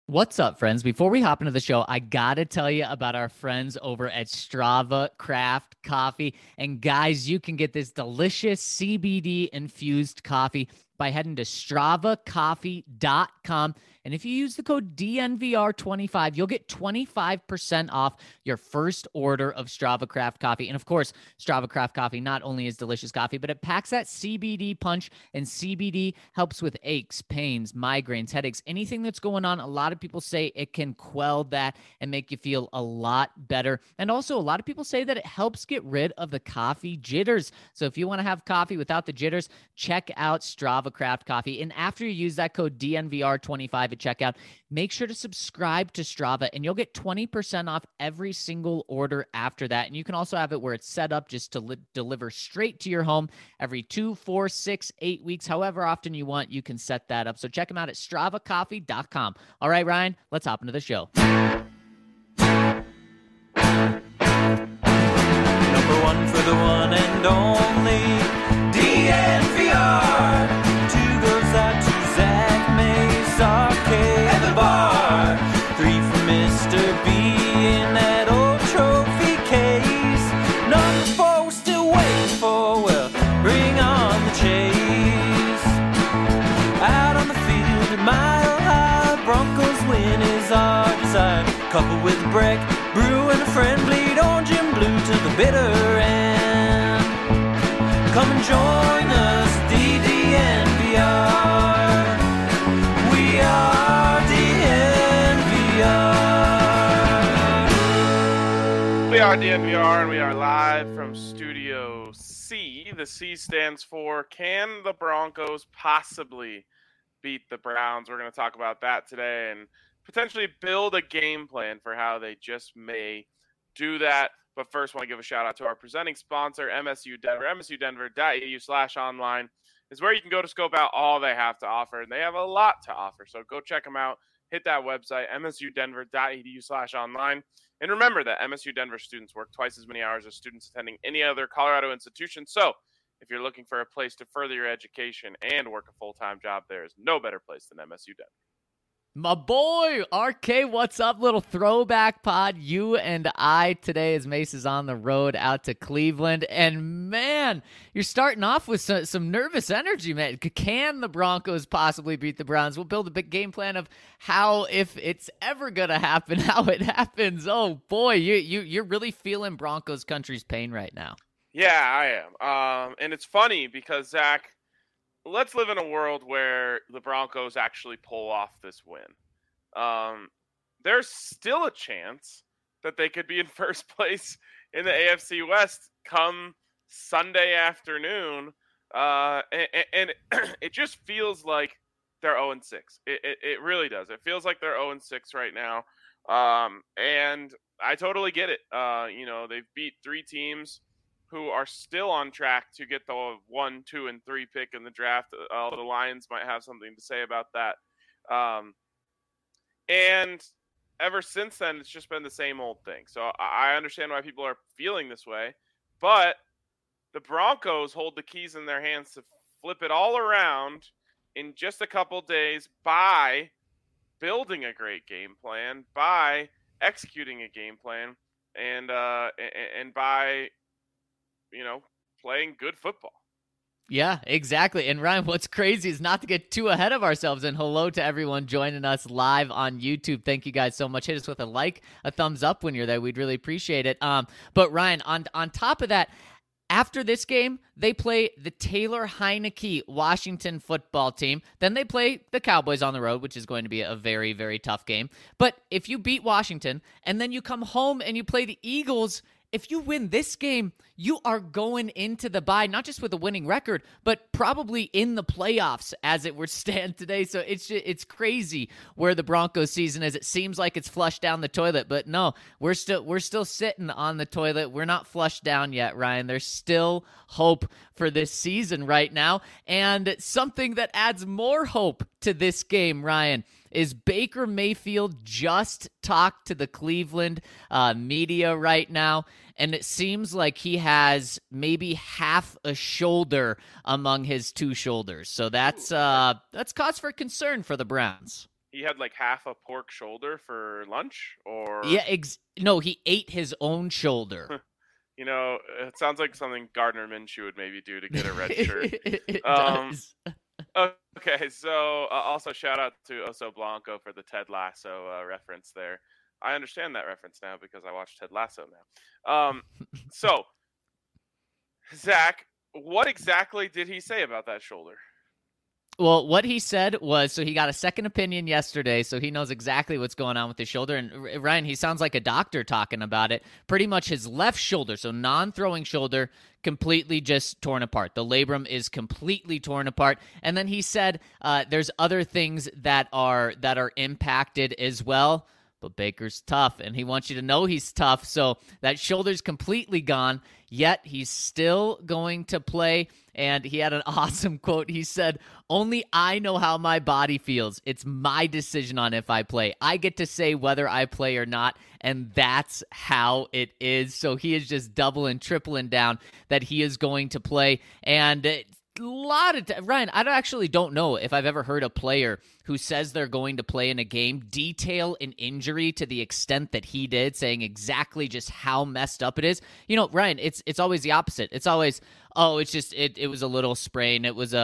What's up, friends? Before we hop into the show, I gotta tell you about our friends over at Strava Craft Coffee. And guys, you can get this delicious CBD infused coffee by heading to stravacoffee.com. And if you use the code DNVR25, you'll get 25% off your first order of Strava Craft Coffee. And of course, Strava Craft Coffee not only is delicious coffee, but it packs that CBD punch, and CBD helps with aches, pains, migraines, headaches, anything that's going on. A lot of people say it can quell that and make you feel a lot better. And also, a lot of people say that it helps get rid of the coffee jitters. So if you want to have coffee without the jitters, check out Strava Craft Coffee. And after you use that code DNVR25 at checkout, make sure to subscribe to Strava and you'll get 20% off every single order after that. And you can also have it where it's set up just to deliver straight to your home every 2, 4, 6, 8 weeks, however often you want. You can set that up. So check them out at stravacoffee.com. All right, Ryan, let's hop into the show. Number one for the one and only DNVR. Two goes out to Zach Mace, Arcade, and the bar. Three for Mr. B in that old trophy case. Number four we're still waiting for, well, bring on the chase. Out on the field at Mile High, Broncos win is our desire. Coupled with a break, brew and a friend, bleed orange and blue to the bitter end. Come and join us, DDNVR. We are DNVR. We are DNVR, and we are live from Studio C. The C stands for, can the Broncos possibly beat the Browns? We're going to talk about that today and potentially build a game plan for how they just may do that. But first, I want to give a shout out to our presenting sponsor, MSU Denver. MSUdenver.edu/online is where you can go to scope out all they have to offer, and they have a lot to offer. So go check them out. Hit that website, msudenver.edu/online. And remember that MSU Denver students work twice as many hours as students attending any other Colorado institution. So if you're looking for a place to further your education and work a full-time job, there is no better place than MSU Denver. My boy, RK, what's up? Little throwback pod, you and I today as Mace is on the road out to Cleveland. And man, you're starting off with some nervous energy, man. Can the Broncos possibly beat the Browns? We'll build a big game plan of how, if it's ever going to happen, how it happens. Oh boy, you're really feeling Broncos country's pain right now. Yeah, I am. And it's funny because, Zach, let's live in a world where the Broncos actually pull off this win. There's still a chance that they could be in first place in the AFC West come Sunday afternoon. And it just feels like they're 0-6. It really does. It feels like they're 0-6 right now. And I totally get it. They've beat three teams who are still on track to get the 1, 2, and 3 pick in the draft. The Lions might have something to say about that. And ever since then, it's just been the same old thing. So I understand why people are feeling this way. But the Broncos hold the keys in their hands to flip it all around in just a couple days by building a great game plan, by executing a game plan, and by playing good football. Yeah, exactly. And Ryan, what's crazy is not to get too ahead of ourselves. And hello to everyone joining us live on YouTube. Thank you guys so much. Hit us with a like, a thumbs up when you're there. We'd really appreciate it. But Ryan, on top of that, after this game, they play the Taylor Heinicke Washington football team. Then they play the Cowboys on the road, which is going to be a very, very tough game. But if you beat Washington and then you come home and you play the Eagles, if you win this game, you are going into the bye, not just with a winning record, but probably in the playoffs as it were stand today. So it's crazy where the Broncos season is. It seems like it's flushed down the toilet, but no, we're still sitting on the toilet. We're not flushed down yet, Ryan. There's still hope for this season right now. And something that adds more hope to this game, Ryan, is Baker Mayfield just talked to the Cleveland media right now, and it seems like he has maybe half a shoulder among his two shoulders. So that's cause for concern for the Browns. he had like half a pork shoulder for lunch, or Yeah, no, he ate his own shoulder. It sounds like something Gardner Minshew would maybe do to get a red shirt. It Um, does. okay, so also shout out to Oso Blanco for the Ted Lasso reference there. I understand that reference now because I watched Ted Lasso now. So Zach, what exactly did he say about that shoulder? Well, what he said was, so he got a second opinion yesterday, so he knows exactly what's going on with his shoulder. And Ryan, he sounds like a doctor talking about it. Pretty much his left shoulder, so non-throwing shoulder, completely just torn apart. The labrum is completely torn apart. And then he said there's other things that are impacted as well. But Baker's tough, and he wants you to know he's tough. So that shoulder's completely gone, yet he's still going to play. And he had an awesome quote. He said, "Only I know how my body feels. It's my decision on if I play. I get to say whether I play or not, and that's how it is." So he is just doubling, tripling down that he is going to play. And Ryan, I actually don't know if I've ever heard a player who says they're going to play in a game detail an injury to the extent that he did, saying exactly just how messed up it is. Ryan, it's always the opposite. It's always, oh, it's just it was a little sprain. It was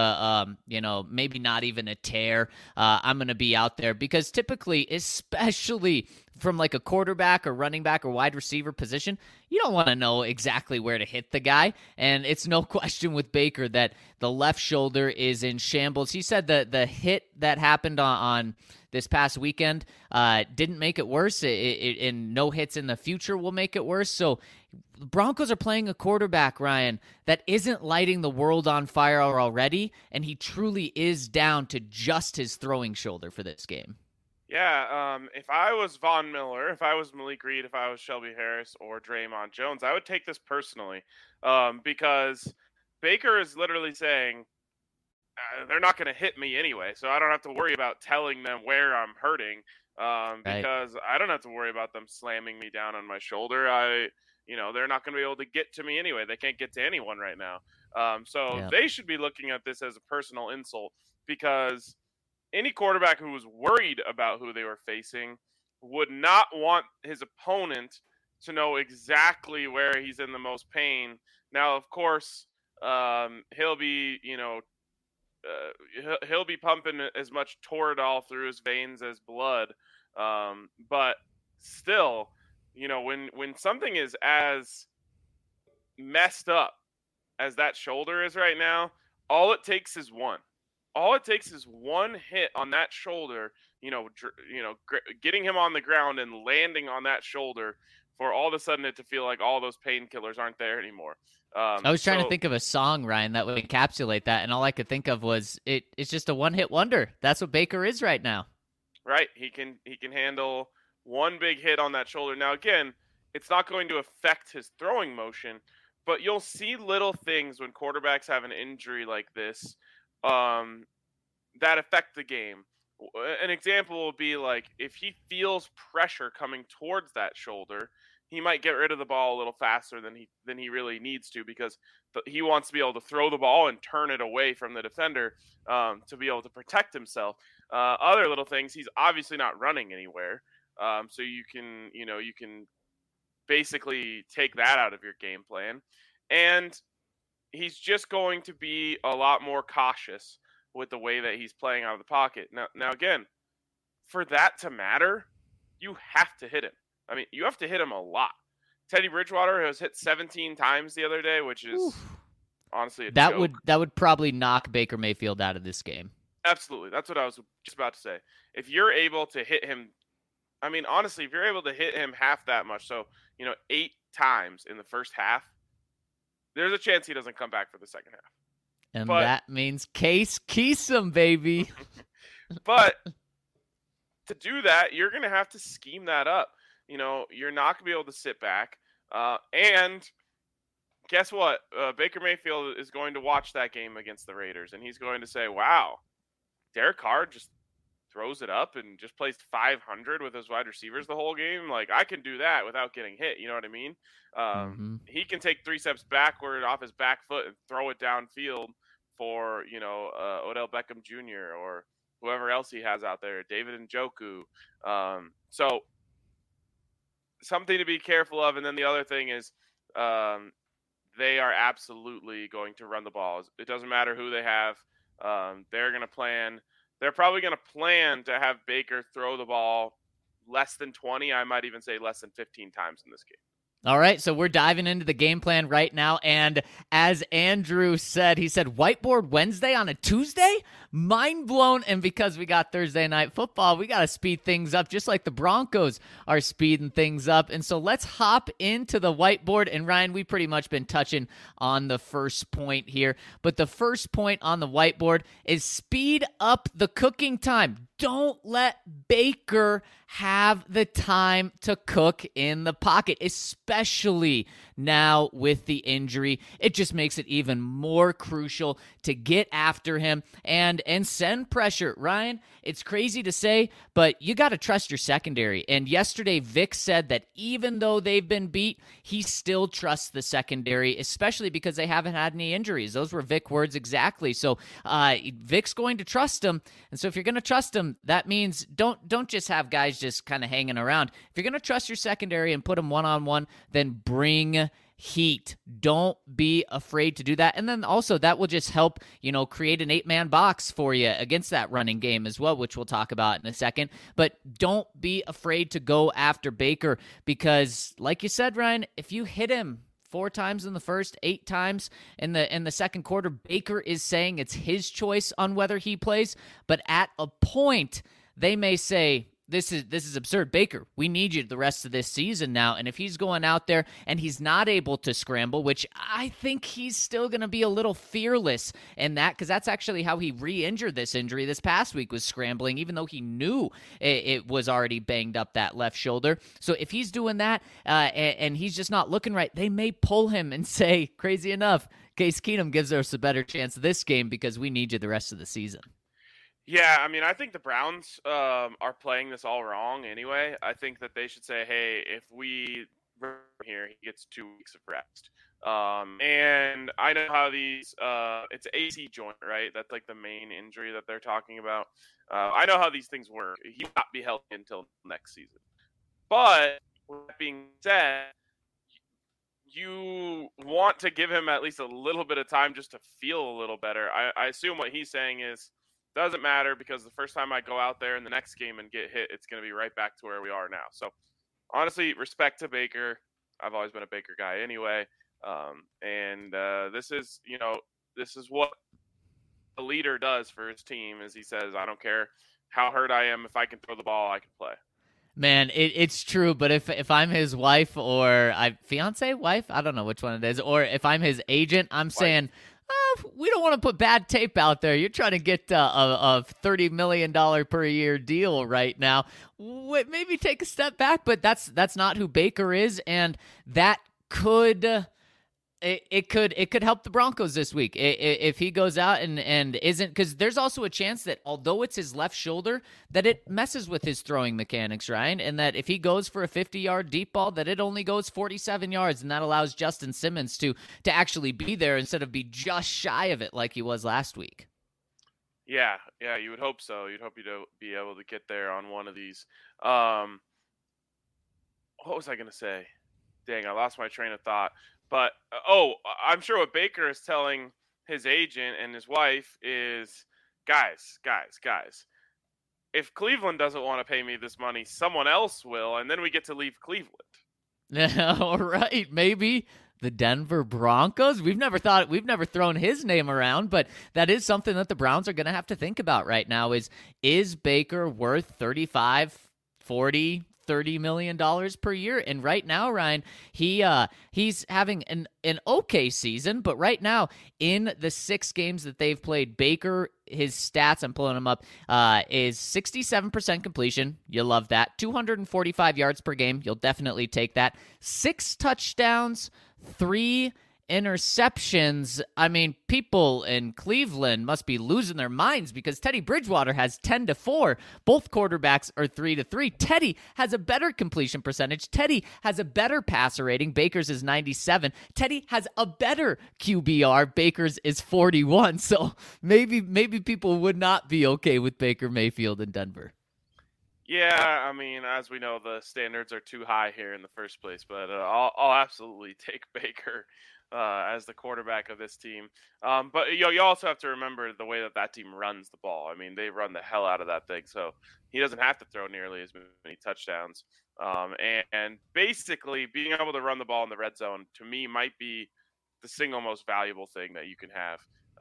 maybe not even a tear. I'm going to be out there, because typically, especially from like a quarterback or running back or wide receiver position, you don't want to know exactly where to hit the guy. And it's no question with Baker that the left shoulder is in shambles. He said that the hit that happened on this past weekend didn't make it worse, and no hits in the future will make it worse. So the Broncos are playing a quarterback, Ryan, that isn't lighting the world on fire already, and he truly is down to just his throwing shoulder for this game. Yeah, if I was Von Miller, if I was Malik Reed, if I was Shelby Harris or Draymond Jones, I would take this personally, because Baker is literally saying they're not going to hit me anyway, so I don't have to worry about telling them where I'm hurting, because I don't have to worry about them slamming me down on my shoulder. They're not going to be able to get to me anyway. They can't get to anyone right now. So they should be looking at this as a personal insult, because any quarterback who was worried about who they were facing would not want his opponent to know exactly where he's in the most pain. Now, of course, he'll be, he'll be pumping as much Toradol through his veins as blood. But still, when something is as messed up as that shoulder is right now, all it takes is one. All it takes is one hit on that shoulder, getting him on the ground and landing on that shoulder, for all of a sudden it to feel like all those painkillers aren't there anymore. I was trying to think of a song, Ryan, that would encapsulate that, and all I could think of was it's just a one-hit wonder. That's what Baker is right now. Right. He can handle one big hit on that shoulder. Now, again, it's not going to affect his throwing motion, but you'll see little things when quarterbacks have an injury like this that affect the game. An example will be like if he feels pressure coming towards that shoulder, he might get rid of the ball a little faster than he really needs to, because he wants to be able to throw the ball and turn it away from the defender to be able to protect himself. Other little things, he's obviously not running anywhere, so you can basically take that out of your game plan, and he's just going to be a lot more cautious with the way that he's playing out of the pocket. Now again, for that to matter, you have to hit him. I mean, you have to hit him a lot. Teddy Bridgewater was hit 17 times the other day, which is honestly a joke. That would probably knock Baker Mayfield out of this game. Absolutely. That's what I was just about to say. If you're able to hit him, I mean, honestly, if you're able to hit him half that much, so, 8 times in the first half, there's a chance he doesn't come back for the second half. And that means Case Keesum, baby. But to do that, you're going to have to scheme that up. You're not going to be able to sit back. And guess what? Baker Mayfield is going to watch that game against the Raiders, and he's going to say, wow, Derek Carr just throws it up and just plays 500 with his wide receivers the whole game. Like, I can do that without getting hit. You know what I mean? He can take 3 steps backward off his back foot and throw it downfield for, Odell Beckham Jr. or whoever else he has out there, David Njoku. So something to be careful of. And then the other thing is they are absolutely going to run the ball. It doesn't matter who they have. They're going to plan. They're probably going to plan to have Baker throw the ball less than 20. I might even say less than 15 times in this game. All right, so we're diving into the game plan right now, and as Andrew said, he said Whiteboard Wednesday on a Tuesday? Mind blown, and because we got Thursday Night Football, we got to speed things up just like the Broncos are speeding things up, and so let's hop into the whiteboard, and Ryan, we've pretty much been touching on the first point here, but the first point on the whiteboard is speed up the cooking time. Don't let Baker have the time to cook in the pocket, especially now with the injury. It just makes it even more crucial to get after him and send pressure. Ryan, it's crazy to say, but you got to trust your secondary. And yesterday, Vic said that even though they've been beat, he still trusts the secondary, especially because they haven't had any injuries. Those were Vic words exactly. So Vic's going to trust him. And so if you're going to trust him, that means don't just have guys just kind of hanging around. If you're going to trust your secondary and put them one-on-one, then bring heat. Don't be afraid to do that. And then also that will just help, create an 8-man box for you against that running game as well, which we'll talk about in a second. But don't be afraid to go after Baker because, like you said, Ryan, if you hit him 4 times in the first, 8 times in the second quarter, Baker is saying it's his choice on whether he plays. But at a point, they may say, This is absurd. Baker, we need you the rest of this season now. And if he's going out there and he's not able to scramble, which I think he's still going to be a little fearless in that because that's actually how he re-injured this injury this past week was scrambling, even though he knew it was already banged up that left shoulder. So if he's doing that and he's just not looking right, they may pull him and say, crazy enough, Case Keenum gives us a better chance this game because we need you the rest of the season. Yeah, I mean, I think the Browns are playing this all wrong anyway. I think that they should say, hey, if we run here, he gets 2 weeks of rest. And I know how these it's AC joint, right? That's like the main injury that they're talking about. I know how these things work. He will not be healthy until next season. But with that being said, you want to give him at least a little bit of time just to feel a little better. I assume what he's saying is, doesn't matter because the first time I go out there in the next game and get hit, it's going to be right back to where we are now. So, honestly, respect to Baker. I've always been a Baker guy anyway. This is what a leader does for his team is he says, I don't care how hurt I am. If I can throw the ball, I can play. Man, it's true, but if I'm his wife or fiance, wife, I don't know which one it is, or if I'm his agent, I'm saying, we don't want to put bad tape out there. You're trying to get a $30 million per year deal right now. Maybe take a step back, but that's not who Baker is, and that could it could help the Broncos this week if he goes out and isn't, because there's also a chance that although it's his left shoulder, that it messes with his throwing mechanics, Ryan, and that if he goes for a 50-yard deep ball, that it only goes 47 yards, and that allows Justin Simmons to actually be there instead of be just shy of it like he was last week. Yeah, you would hope so. You'd hope you'd be able to get there on one of these. What was I going to say? Dang, I lost my train of thought. But, I'm sure what Baker is telling his agent and his wife is, guys, if Cleveland doesn't want to pay me this money, someone else will, and then we get to leave Cleveland. All right, maybe the Denver Broncos. We've never thrown his name around, but that is something that the Browns are going to have to think about right now is Baker worth 35, 40, $30 million per year? And right now, Ryan, he's having an okay season, but right now in the 6 games that they've played, Baker, his stats, I'm pulling them up, is 67% completion. You love that. 245 yards per game. You'll definitely take that. 6 touchdowns, 3 interceptions. I mean, people in Cleveland must be losing their minds because Teddy Bridgewater has 10-4. Both quarterbacks are 3-3. Teddy has a better completion percentage. Teddy has a better passer rating. Baker's is 97. Teddy has a better QBR. Baker's is 41. So maybe people would not be okay with Baker Mayfield in Denver. Yeah, I mean, as we know, the standards are too high here in the first place, but I'll absolutely take Baker as the quarterback of this team. But you also have to remember the way that team runs the ball. I mean, they run the hell out of that thing, so he doesn't have to throw nearly as many touchdowns. And basically, being able to run the ball in the red zone, to me, might be the single most valuable thing that you can have.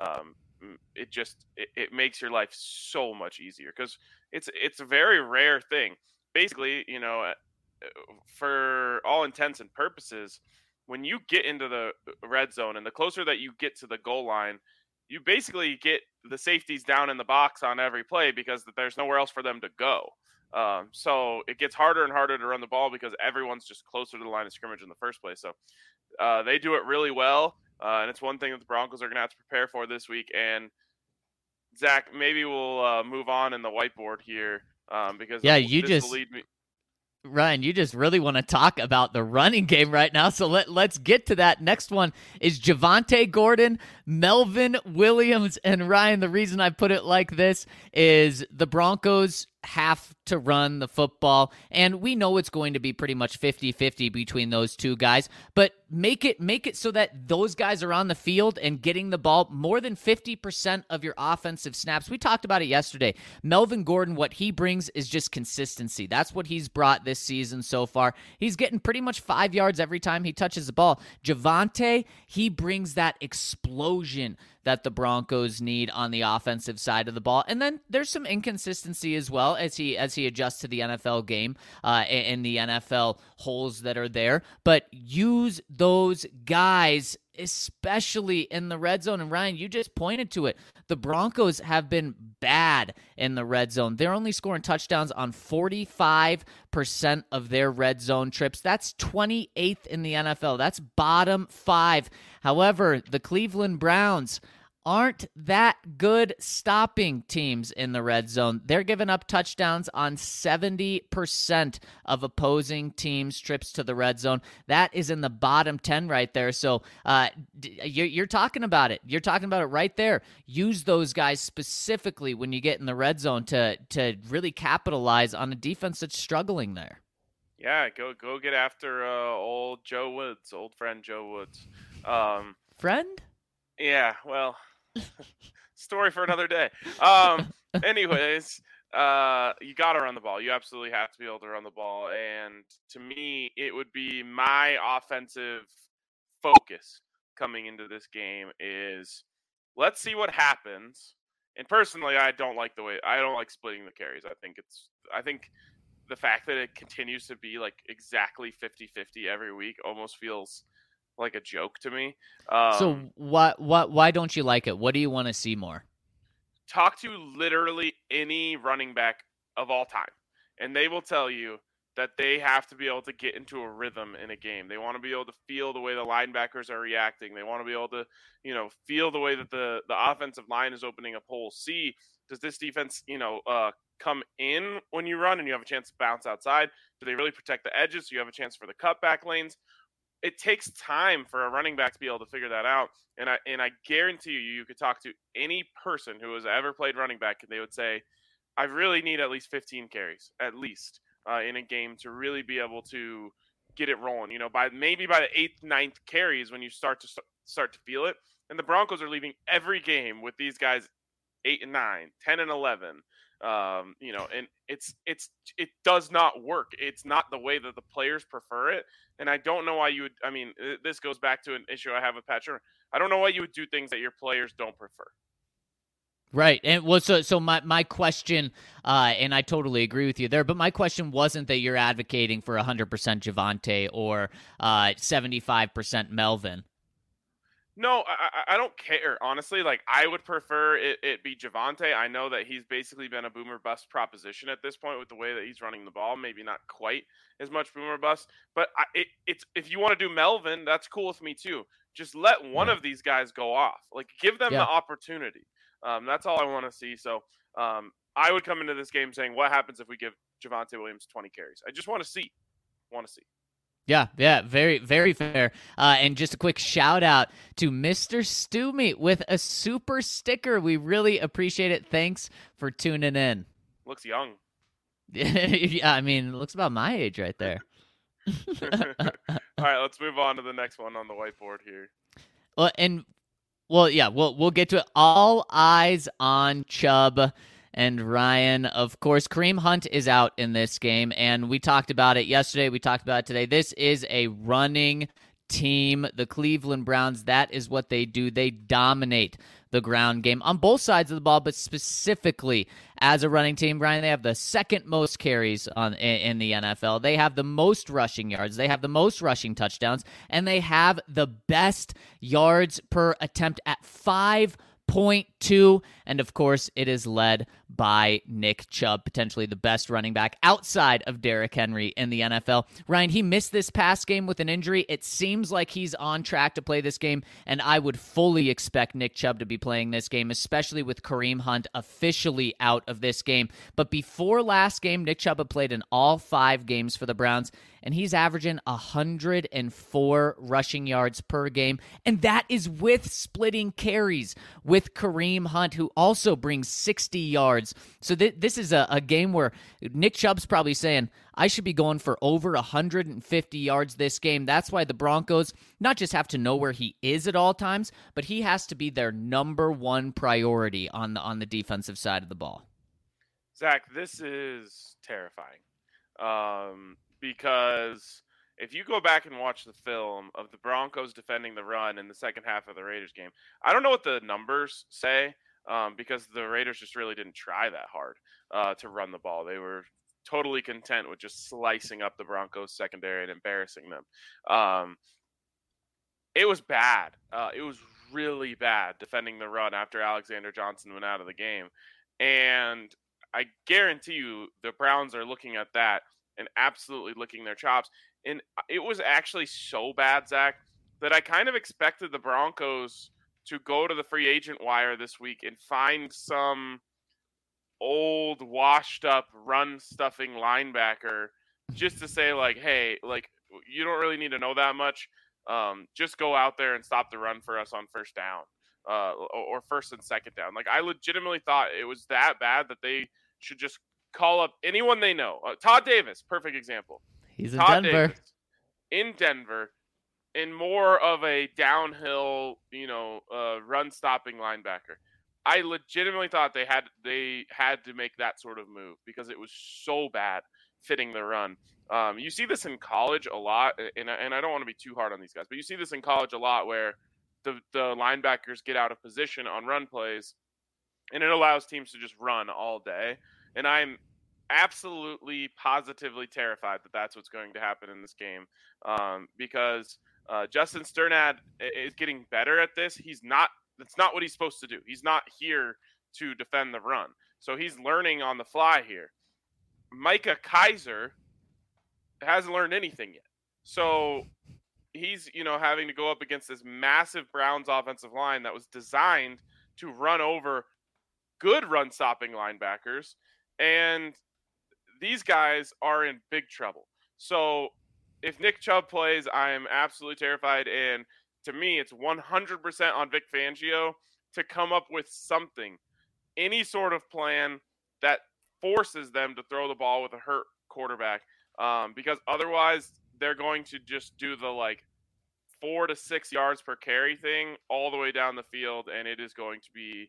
It makes your life so much easier because it's a very rare thing. Basically, for all intents and purposes, when you get into the red zone and the closer that you get to the goal line, you basically get the safeties down in the box on every play because there's nowhere else for them to go. So it gets harder and harder to run the ball because everyone's just closer to the line of scrimmage in the first place. So they do it really well. And it's one thing that the Broncos are going to have to prepare for this week. And Zach, maybe we'll move on in the whiteboard here because this will lead me. Ryan, you just really want to talk about the running game right now, so let's get to that. Next one is Javonte Gordon, Melvin Williams, and Ryan, the reason I put it like this is the Broncos have to run the football, and we know it's going to be pretty much 50-50 between those two guys, but make it so that those guys are on the field and getting the ball more than 50% of your offensive snaps. We talked about it yesterday. Melvin Gordon, what he brings is just consistency. That's what he's brought this season so far. He's getting pretty much 5 yards every time he touches the ball. Javonte, he brings that explosion that the Broncos need on the offensive side of the ball. And then there's some inconsistency as well as he adjusts to the NFL game and the NFL holes that are there. But use those guys, especially in the red zone. And Ryan, you just pointed to it. The Broncos have been bad in the red zone. They're only scoring touchdowns on 45% of their red zone trips. That's 28th in the NFL. That's bottom 5. However, the Cleveland Browns aren't that good stopping teams in the red zone. They're giving up touchdowns on 70% of opposing teams' trips to the red zone. That is in the bottom 10 right there. So you're talking about it. You're talking about it right there. Use those guys specifically when you get in the red zone to really capitalize on a defense that's struggling there. Yeah, go get after old Joe Woods, old friend Joe Woods. Friend? Yeah, well, story for another day. Anyways, you got to run the ball. You absolutely have to be able to run the ball. And to me, it would be my offensive focus coming into this game is let's see what happens. And personally, I don't like splitting the carries. I think the fact that it continues to be like exactly 50-50 every week almost feels like a joke to me. So why don't you like it? What do you want to see more? Talk to literally any running back of all time, and they will tell you that they have to be able to get into a rhythm in a game. They want to be able to feel the way the linebackers are reacting. They want to be able to, feel the way that the offensive line is opening up holes. See, does this defense, come in when you run and you have a chance to bounce outside? Do they really protect the edges so you have a chance for the cutback lanes? It takes time for a running back to be able to figure that out. And I guarantee you could talk to any person who has ever played running back and they would say, I really need at least 15 carries, at least, in a game to really be able to get it rolling. By the 8th, 9th carries when you start to feel it. And the Broncos are leaving every game with these guys 8 and 9, 10 and 11. And it does not work. It's not the way that the players prefer it. And I don't know why you would, this goes back to an issue I have with Pat Shurmur. I don't know why you would do things that your players don't prefer. Right. And so my question, and I totally agree with you there, but my question wasn't that you're advocating for 100% Javonte or 75% Melvin. No, I don't care, honestly. Like, I would prefer it be Javonte. I know that he's basically been a boomer bust proposition at this point with the way that he's running the ball. Maybe not quite as much boomer bust, but it's if you want to do Melvin, that's cool with me too. Just let one Right. of these guys go off. Like, give them Yeah. the opportunity. That's all I want to see. So I would come into this game saying, what happens if we give Javonte Williams 20 carries? I just want to see. Yeah, very, very fair. And just a quick shout out to Mr. Stew Meat with a super sticker. We really appreciate it. Thanks for tuning in. Looks young. Yeah, I mean, looks about my age right there. All right, let's move on to the next one on the whiteboard here. We'll get to it. All eyes on Chubb and Ryan. Of course, Kareem Hunt is out in this game, and we talked about it yesterday. We talked about it today. This is a running team. The Cleveland Browns, that is what they do. They dominate the ground game on both sides of the ball, but specifically as a running team, Brian, they have the second most carries in the NFL. They have the most rushing yards. They have the most rushing touchdowns, and they have the best yards per attempt at 5.2, and of course, it is led by Nick Chubb, potentially the best running back outside of Derrick Henry in the NFL. Ryan, he missed this past game with an injury. It seems like he's on track to play this game, and I would fully expect Nick Chubb to be playing this game, especially with Kareem Hunt officially out of this game. But before last game, Nick Chubb had played in all 5 games for the Browns, and he's averaging 104 rushing yards per game, and that is with splitting carries with Kareem Hunt, who also brings 60 yards. So this is a game where Nick Chubb's probably saying, I should be going for over 150 yards this game. That's why the Broncos not just have to know where he is at all times, but he has to be their number one priority on the defensive side of the ball. Zach, this is terrifying. Because if you go back and watch the film of the Broncos defending the run in the second half of the Raiders game, I don't know what the numbers say, because the Raiders just really didn't try that hard to run the ball. They were totally content with just slicing up the Broncos secondary and embarrassing them. It was bad. It was really bad defending the run after Alexander Johnson went out of the game. And I guarantee you the Browns are looking at that and absolutely licking their chops. And it was actually so bad, Zach, that I kind of expected the Broncos to go to the free agent wire this week and find some old, washed-up, run-stuffing linebacker just to say, like, hey, like, you don't really need to know that much. Just go out there and stop the run for us on first down, or first and second down. Like, I legitimately thought it was that bad that they should just call up anyone they know. Todd Davis, perfect example. He's in Todd Denver. Davis in Denver, in more of a downhill, run-stopping linebacker. I legitimately thought they had to make that sort of move because it was so bad fitting the run. You see this in college a lot, and I don't want to be too hard on these guys, but you see this in college a lot where the linebackers get out of position on run plays, and it allows teams to just run all day. And I'm absolutely, positively terrified that that's what's going to happen in this game, because Justin Sternad is getting better at this. That's not what he's supposed to do. He's not here to defend the run. So he's learning on the fly here. Micah Kiser hasn't learned anything yet. So he's, having to go up against this massive Browns offensive line that was designed to run over good run-stopping linebackers. And these guys are in big trouble. So if Nick Chubb plays, I am absolutely terrified. And to me, it's 100% on Vic Fangio to come up with something, any sort of plan that forces them to throw the ball with a hurt quarterback. Because otherwise, they're going to just do the 4 to 6 yards per carry thing all the way down the field, and it is going to be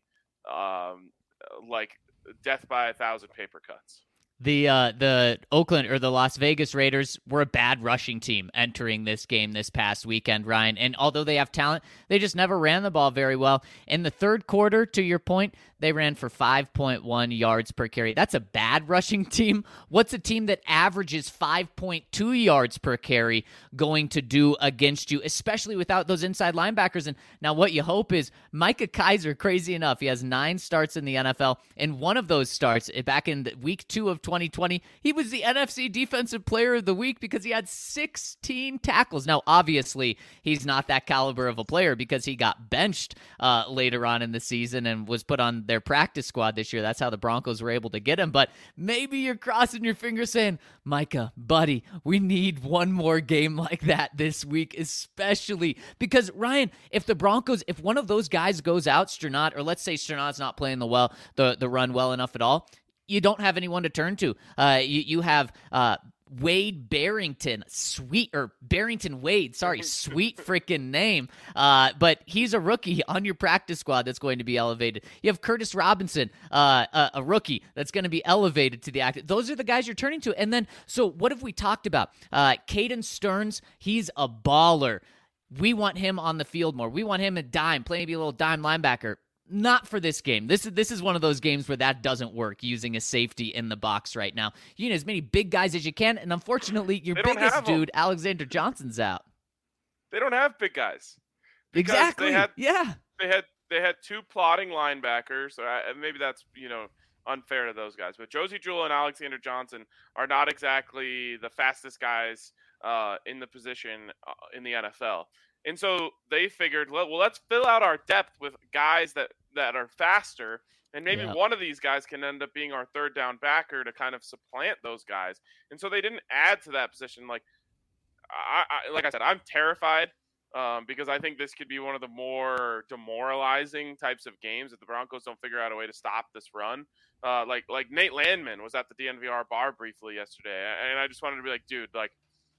like death by 1,000 paper cuts. The Oakland or the Las Vegas Raiders were a bad rushing team entering this game this past weekend, Ryan. And although they have talent, they just never ran the ball very well. In the third quarter, to your point, They ran for 5.1 yards per carry. That's a bad rushing team. What's a team that averages 5.2 yards per carry going to do against you, especially without those inside linebackers? And now what you hope is Micah Kiser, crazy enough, he has 9 starts in the NFL. In one of those starts, back in week 2 of 2020, he was the NFC Defensive Player of the Week because he had 16 tackles. Now, obviously, he's not that caliber of a player because he got benched later on in the season and was put on their practice squad this year. That's how the Broncos were able to get him. But maybe you're crossing your fingers saying, Micah, buddy, we need one more game like that this week, especially because, Ryan, if the Broncos, if one of those guys goes out, Sternad, or let's say Sternad's not playing the run well enough at all, you don't have anyone to turn to. You have Wade Barrington, Barrington Wade, sorry, sweet freaking name. But he's a rookie on your practice squad that's going to be elevated. You have Curtis Robinson, a rookie that's going to be elevated to the active. Those are the guys you're turning to. And then, so what have we talked about? Caden Stearns, he's a baller. We want him on the field more. We want him a dime, playing maybe a little dime linebacker. Not for this game. This is one of those games where that doesn't work, using a safety in the box right now. You need as many big guys as you can, and unfortunately, your biggest dude, Alexander Johnson's out. They don't have big guys. Exactly. They had 2 plotting linebackers. Maybe that's unfair to those guys, but Josie Jewell and Alexander Johnson are not exactly the fastest guys in the position in the NFL. And so they figured, well, let's fill out our depth with guys that are faster, and maybe one of these guys can end up being our third down backer to kind of supplant those guys. And so they didn't add to that position. Like I said, I'm terrified because I think this could be one of the more demoralizing types of games if the Broncos don't figure out a way to stop this run. Like Nate Landman was at the DNVR bar briefly yesterday, and I just wanted to be like, dude, like,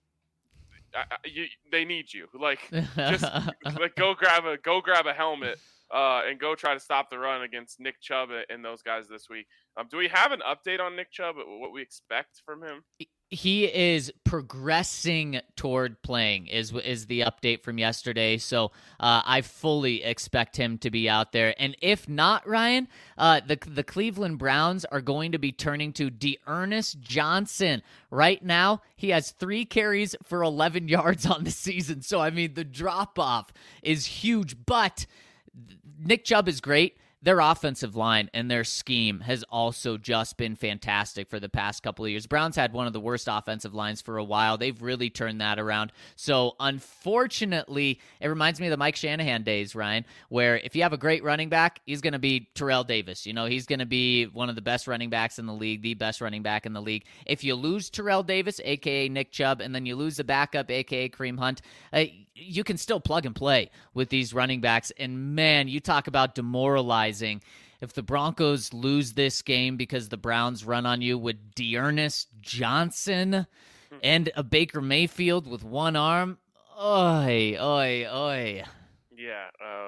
they need you. Like, just like go grab a helmet and go try to stop the run against Nick Chubb and those guys this week. Do we have an update on Nick Chubb? What we expect from him? He is progressing toward playing is the update from yesterday. So I fully expect him to be out there. And if not, Ryan, the Cleveland Browns are going to be turning to D'Ernest Johnson. Right now, he has 3 carries for 11 yards on the season. So, I mean, the drop-off is huge. But Nick Chubb is great. Their offensive line and their scheme has also just been fantastic for the past couple of years. Browns had one of the worst offensive lines for a while. They've really turned that around. So, unfortunately, it reminds me of the Mike Shanahan days, Ryan, where if you have a great running back, he's going to be Terrell Davis. You know, he's going to be one of the best running backs in the league, the best running back in the league. If you lose Terrell Davis, a.k.a. Nick Chubb, and then you lose the backup, a.k.a. Kareem Hunt, you can still plug and play with these running backs. And, man, you talk about demoralizing. If the Broncos lose this game because the Browns run on you with D'Ernest Johnson and a Baker Mayfield with one arm, oi. Yeah,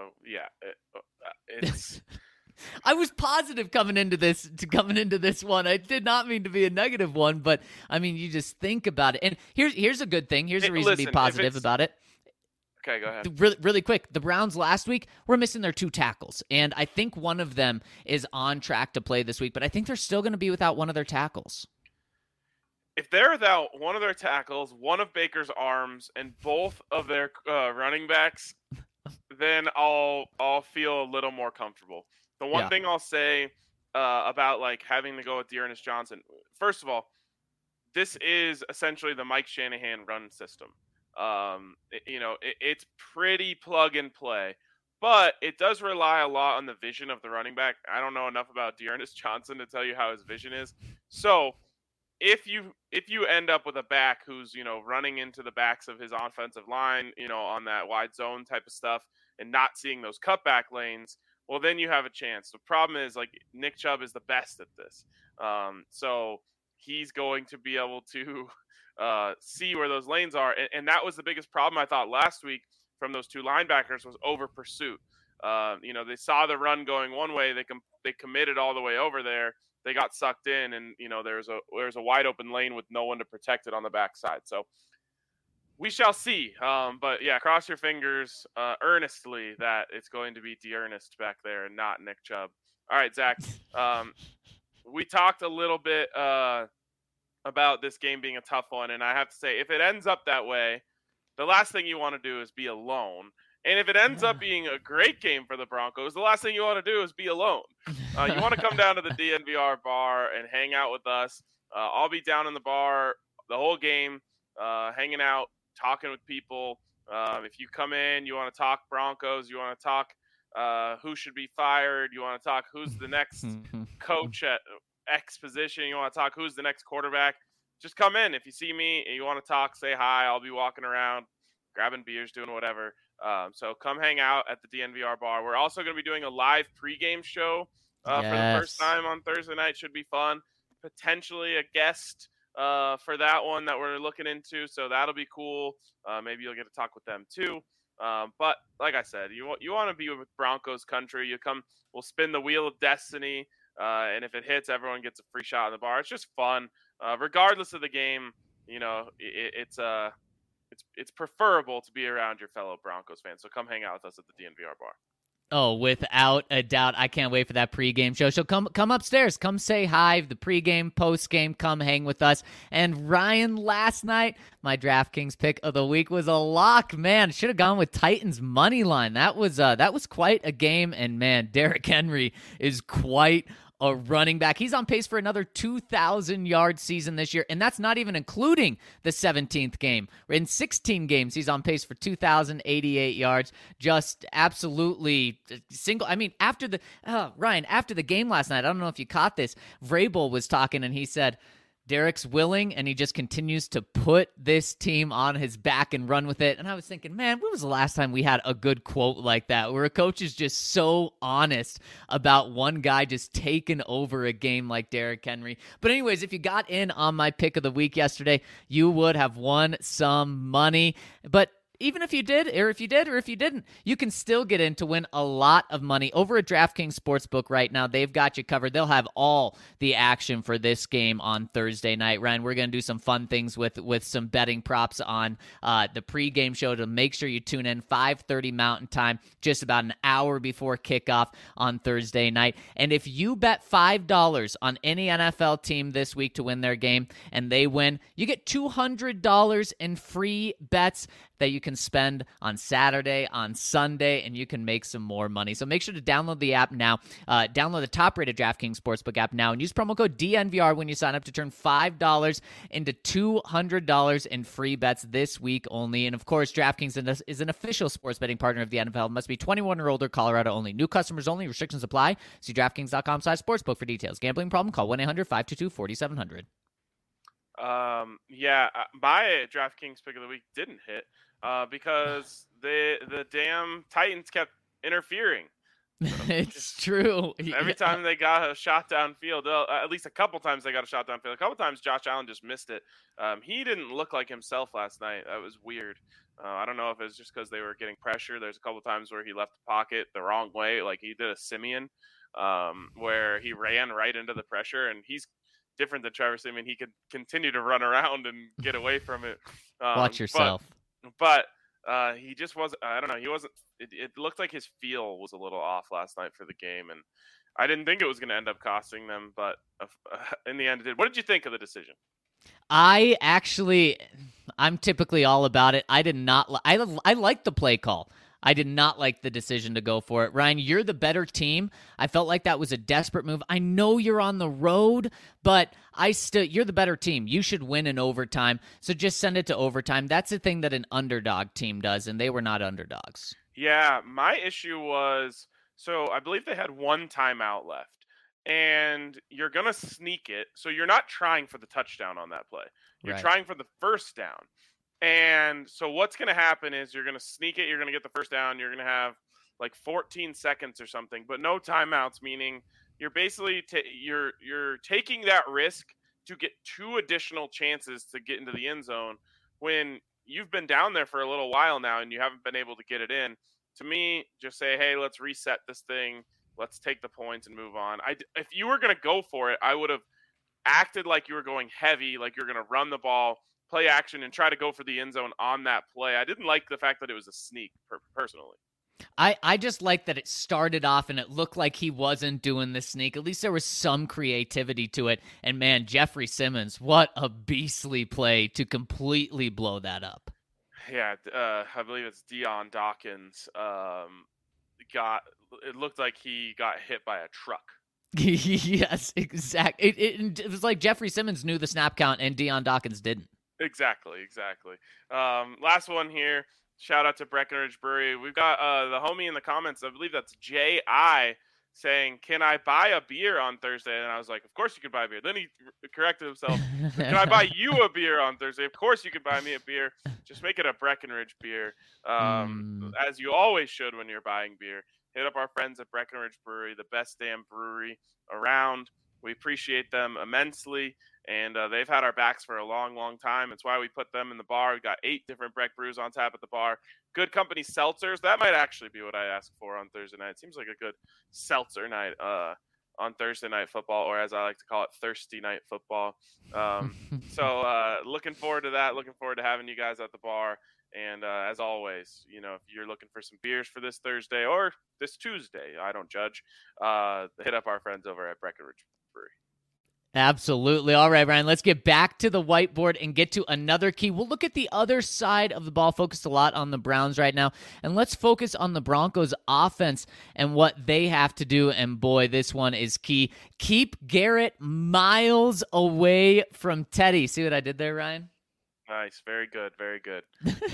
it's... I was positive coming into this one. I did not mean to be a negative one, but, I mean, you just think about it. And here's a good thing. Here's a reason to be positive about it. Okay, go ahead. Really quick, the Browns last week were missing their 2 tackles, and I think one of them is on track to play this week, but I think they're still going to be without one of their tackles. If they're without one of their tackles, one of Baker's arms, and both of their running backs, then I'll feel a little more comfortable. The one thing I'll say about like having to go with D'Ernest Johnson, first of all, this is essentially the Mike Shanahan run system. It's pretty plug and play, but it does rely a lot on the vision of the running back. I don't know enough about D'Ernest Johnson to tell you how his vision is. So if you end up with a back who's, running into the backs of his offensive line, on that wide zone type of stuff and not seeing those cutback lanes, well, then you have a chance. The problem is, like, Nick Chubb is the best at this. So he's going to be able to see where those lanes are. And that was the biggest problem, I thought, last week from those 2 linebackers was over pursuit. They saw the run going one way. They committed all the way over there. They got sucked in, and, there's a wide open lane with no one to protect it on the backside. So we shall see. But, yeah, cross your fingers earnestly that it's going to be D'Ernest back there and not Nick Chubb. All right, Zach. We talked a little bit about this game being a tough one, and I have to say, if it ends up that way, the last thing you want to do is be alone. And if it ends up being a great game for the Broncos, the last thing you want to do is be alone. You want to come down to the DNVR bar and hang out with us. I'll be down in the bar the whole game, hanging out, talking with people. If you come in, you want to talk Broncos, you want to talk who should be fired, you want to talk who's the next coach at X position, you want to talk who's the next quarterback, just come in. If you see me and you want to talk, say hi. I'll be walking around, grabbing beers, doing whatever. So come hang out at the DNVR bar. We're also going to be doing a live pregame show for the first time on Thursday night. Should be fun. Potentially a guest for that one that we're looking into. So that'll be cool. Maybe you'll get to talk with them too. But like I said, you want to be with Broncos country. You come, we'll spin the wheel of destiny. And if it hits, everyone gets a free shot in the bar. It's just fun. Regardless of the game, it's preferable to be around your fellow Broncos fans. So come hang out with us at the DNVR bar. Oh, without a doubt. I can't wait for that pregame show. So come upstairs. Come say hi. The pregame, postgame, come hang with us. And Ryan, last night, my DraftKings pick of the week was a lock. Man, should have gone with Titans money line. That was quite a game. And man, Derrick Henry is quite a running back. He's on pace for another 2,000-yard season this year, and that's not even including the 17th game. In 16 games, he's on pace for 2,088 yards. Just absolutely single. I mean, after the game last night, I don't know if you caught this, Vrabel was talking, and he said, Derek's willing, and he just continues to put this team on his back and run with it. And I was thinking, man, when was the last time we had a good quote like that, where a coach is just so honest about one guy just taking over a game like Derrick Henry? But anyways, if you got in on my pick of the week yesterday, you would have won some money. But even if you did, or if you didn't, you can still get in to win a lot of money over at DraftKings Sportsbook right now. They've got you covered. They'll have all the action for this game on Thursday night. Ryan, we're going to do some fun things with some betting props on the pregame show to make sure you tune in 5:30 Mountain Time, just about an hour before kickoff on Thursday night. And if you bet $5 on any NFL team this week to win their game and they win, you get $200 in free bets that you can spend on Saturday, on Sunday, and you can make some more money. So make sure to download the app now. Download the top-rated DraftKings Sportsbook app now and use promo code DNVR when you sign up to turn $5 into $200 in free bets this week only. And, of course, DraftKings is an official sports betting partner of the NFL. Must be 21 or older, Colorado only. New customers only. Restrictions apply. See DraftKings.com/sportsbook for details. Gambling problem? Call 1-800-522-4700. My DraftKings pick of the week didn't hit because the damn Titans kept interfering. It's true. Every time they got a shot downfield, at least a couple times they got a shot downfield. A couple times Josh Allen just missed it. He didn't look like himself last night. That was weird. I don't know if it's just because they were getting pressure. There's a couple times where he left the pocket the wrong way, like he did a Simeon, where he ran right into the pressure, and he's different than Trevor Simeon. He could continue to run around and get away from it. Watch yourself. But he just wasn't. I don't know. He wasn't. It looked like his feel was a little off last night for the game, and I didn't think it was going to end up costing them, but in the end, it did. What did you think of the decision? I'm typically all about it. I did not. I like the play call. I did not like the decision to go for it. Ryan, you're the better team. I felt like that was a desperate move. I know you're on the road, but you're the better team. You should win in overtime. So just send it to overtime. That's the thing that an underdog team does, and they were not underdogs. Yeah, my issue was, so I believe they had one timeout left, and you're going to sneak it. So you're not trying for the touchdown on that play. You're trying for the first down. And so what's going to happen is you're going to sneak it. You're going to get the first down. You're going to have like 14 seconds or something, but no timeouts, meaning you're basically you're taking that risk to get 2 additional chances to get into the end zone when you've been down there for a little while now and you haven't been able to get it in. To me, just say, hey, let's reset this thing. Let's take the points and move on. If you were going to go for it, I would have acted like you were going heavy, like you're going to run the ball, play action, and try to go for the end zone on that play. I didn't like the fact that it was a sneak, personally. I just like that it started off and it looked like he wasn't doing the sneak. At least there was some creativity to it. And man, Jeffrey Simmons, what a beastly play to completely blow that up. Yeah, I believe it's Dion Dawkins. It looked like he got hit by a truck. Yes, exactly. It was like Jeffrey Simmons knew the snap count and Dion Dawkins didn't. Exactly. Last one here. Shout out to Breckenridge Brewery. We've got the homie in the comments. I believe that's J.I. saying, "Can I buy a beer on Thursday?" And I was like, "Of course you can buy a beer." Then he corrected himself. "Can I buy you a beer on Thursday?" Of course you can buy me a beer. Just make it a Breckenridge beer, as you always should when you're buying beer. Hit up our friends at Breckenridge Brewery, the best damn brewery around. We appreciate them immensely, and they've had our backs for a long, long time. It's why we put them in the bar. We've got 8 different Breck brews on tap at the bar. Good company seltzers. That might actually be what I ask for on Thursday night. It seems like a good seltzer night on Thursday Night Football, or as I like to call it, Thirsty Night Football. So looking forward to that. Looking forward to having you guys at the bar. And as always, if you're looking for some beers for this Thursday or this Tuesday, I don't judge, hit up our friends over at Breckenridge Brewery. Absolutely. All right, Ryan, let's get back to the whiteboard and get to another key. We'll look at the other side of the ball, focused a lot on the Browns right now, and let's focus on the Broncos offense and what they have to do. And boy, this one is key. Keep Garrett miles away from Teddy. See what I did there, Ryan? Nice. Very good. Very good.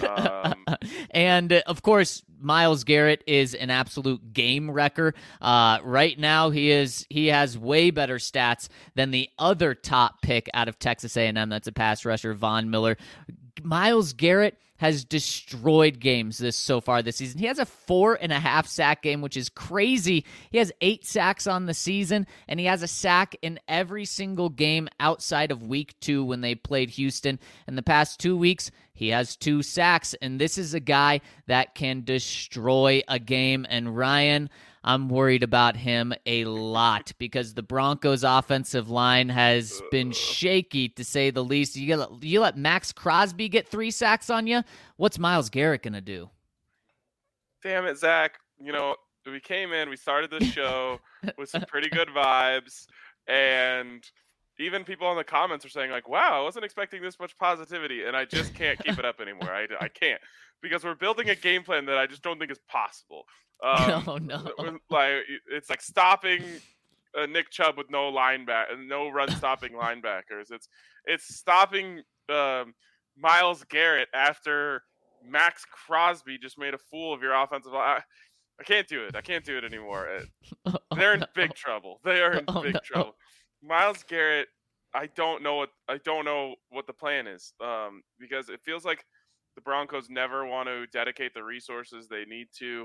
And, of course, Myles Garrett is an absolute game wrecker. Right now, he has way better stats than the other top pick out of Texas A&M. That's a pass rusher, Von Miller. Myles Garrett has destroyed games so far this season. He has a 4.5 sack game, which is crazy. He has 8 sacks on the season, and he has a sack in every single game outside of week 2 when they played Houston. In the past 2 weeks, he has 2 sacks, and this is a guy that can destroy a game. And Ryan, I'm worried about him a lot because the Broncos' offensive line has been shaky, to say the least. You let Max Crosby get 3 sacks on you? What's Myles Garrett going to do? Damn it, Zach. We came in, we started the show with some pretty good vibes, and even people in the comments are saying, like, wow, I wasn't expecting this much positivity, and I just can't keep it up anymore. I can't, because we're building a game plan that I just don't think is possible. Oh, no. It's like stopping Nick Chubb with no run-stopping linebackers. It's stopping Myles Garrett after Max Crosby just made a fool of your offensive line. I can't do it. I can't do it anymore. They're in big trouble. They are in big trouble. Myles Garrett, I don't know what the plan is, because it feels like the Broncos never want to dedicate the resources they need to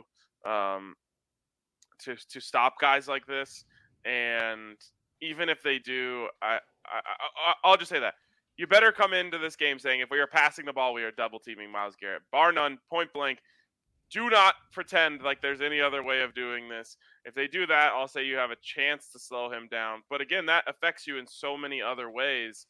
stop guys like this. And even if they do, I'll just say that you better come into this game saying, if we are passing the ball, we are double teaming Myles Garrett, bar none, point blank. Do not pretend like there's any other way of doing this. If they do that, I'll say you have a chance to slow him down. But again, that affects you in so many other ways.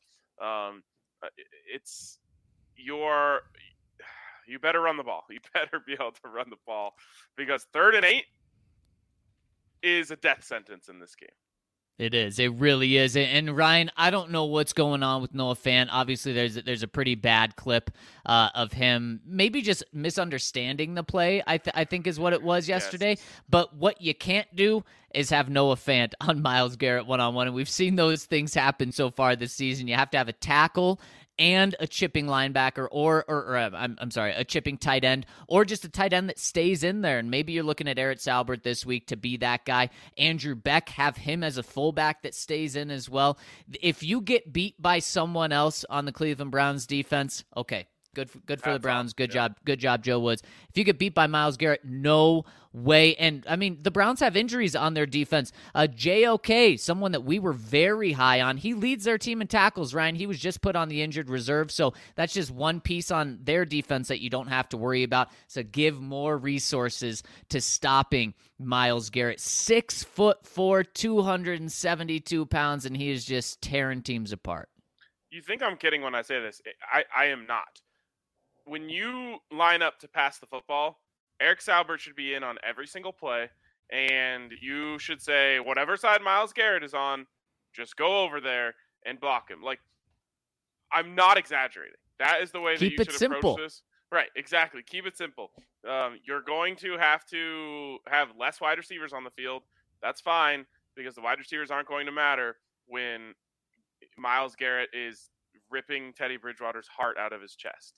You better run the ball. You better be able to run the ball, because 3rd and 8 is a death sentence in this game. It is. It really is. And Ryan, I don't know what's going on with Noah Fant. Obviously, there's a pretty bad clip of him maybe just misunderstanding the play, I think is what it was yesterday. Yes. But what you can't do is have Noah Fant on Myles Garrett one-on-one. And we've seen those things happen so far this season. You have to have a tackle and a chipping linebacker, or a chipping tight end, or just a tight end that stays in there. And maybe you're looking at Eric Salbert this week to be that guy. Andrew Beck, have him as a fullback that stays in as well. If you get beat by someone else on the Cleveland Browns defense, okay, good for the Browns. Good job, Joe Woods. If you get beat by Myles Garrett, no way. And, I mean, the Browns have injuries on their defense. JOK, someone that we were very high on, he leads their team in tackles, Ryan. He was just put on the injured reserve, so that's just one piece on their defense that you don't have to worry about. So give more resources to stopping Myles Garrett. 6'4", 272 pounds, and he is just tearing teams apart. You think I'm kidding when I say this. I am not. When you line up to pass the football, Eric Saubert should be in on every single play, and you should say, whatever side Myles Garrett is on, just go over there and block him. Like, I'm not exaggerating. That is the way that Keep you it should simple. approach this. Right, exactly. Keep it simple. You're going to have less wide receivers on the field. That's fine, because the wide receivers aren't going to matter when Myles Garrett is ripping Teddy Bridgewater's heart out of his chest.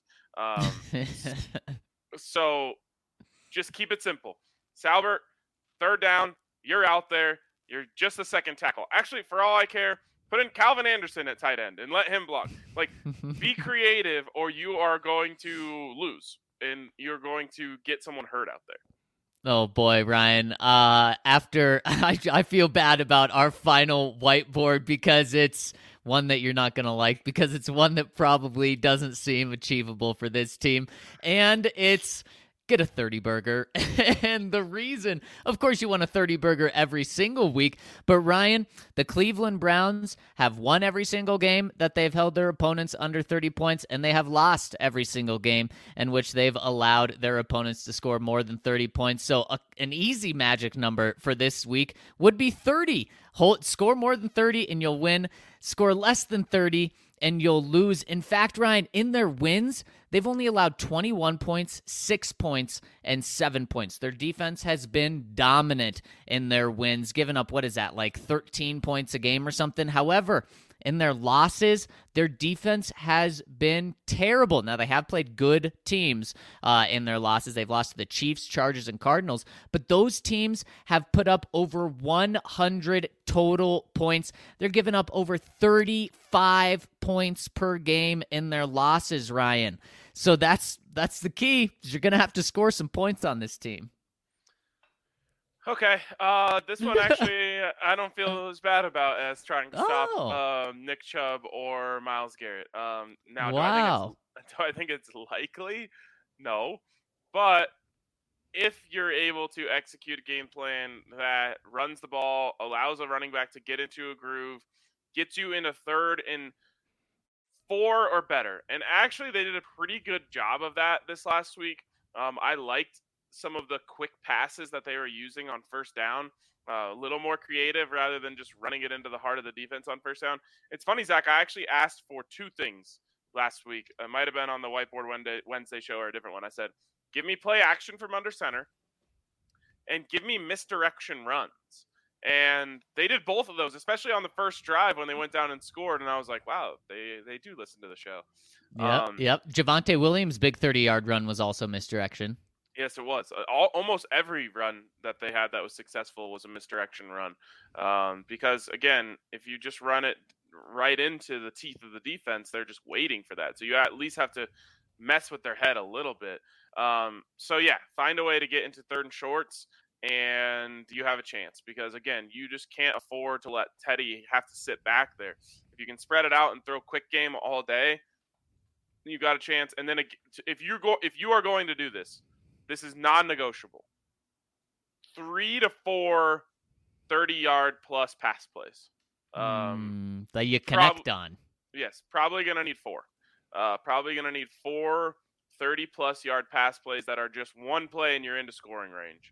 So just keep it simple. Saubert, third down, you're out there. You're just a second tackle. Actually, for all I care, put in Calvin Anderson at tight end and let him block. Like, be creative, or you are going to lose, and you're going to get someone hurt out there. Oh boy, Ryan. After I feel bad about our final whiteboard because it's one that you're not going to like, because it's one that probably doesn't seem achievable for this team. And it's get a 30 burger. And the reason, of course, you want a 30 burger every single week. But Ryan, the Cleveland Browns have won every single game that they've held their opponents under 30 points, and they have lost every single game in which they've allowed their opponents to score more than 30 points. So an easy magic number for this week would be 30. Score more than 30 and you'll win. Score less than 30 and you'll lose. In fact, Ryan, in their wins, they've only allowed 21 points, 6 points, and 7 points. Their defense has been dominant in their wins, giving up, what is that, like 13 points a game or something? However, in their losses, their defense has been terrible. Now, they have played good teams in their losses. They've lost to the Chiefs, Chargers, and Cardinals, but those teams have put up over 100 total points. They're giving up over 35 points per game in their losses, Ryan. So that's the key. You're going to have to score some points on this team. Okay, this one actually I don't feel as bad about as trying to stop Nick Chubb or Myles Garrett. Now, wow. do I think it's likely? No, but if you're able to execute a game plan that runs the ball, allows a running back to get into a groove, gets you in a 3rd and 4 or better, and actually they did a pretty good job of that this last week. I liked some of the quick passes that they were using on first down, a little more creative rather than just running it into the heart of the defense on first down. It's funny, Zach, I actually asked for 2 things last week. It might have been on the Whiteboard Wednesday show or a different one. I said, give me play action from under center and give me misdirection runs. And they did both of those, especially on the first drive when they went down and scored. And I was like, wow, they do listen to the show. Yep. Javonte Williams' big 30-yard run was also misdirection. Yes, it was. Almost every run that they had that was successful was a misdirection run. Because, again, if you just run it right into the teeth of the defense, they're just waiting for that. So you at least have to mess with their head a little bit. So, yeah, find a way to get into 3rd and shorts, and you have a chance. Because, again, you just can't afford to let Teddy have to sit back there. If you can spread it out and throw quick game all day, you got a chance. And then if you are going to do this, this is non-negotiable. 3 to 4 30-yard plus pass plays. That you connect on. Yes, probably going to need 4. Probably going to need 4 30-plus yard pass plays that are just one play and you're into scoring range.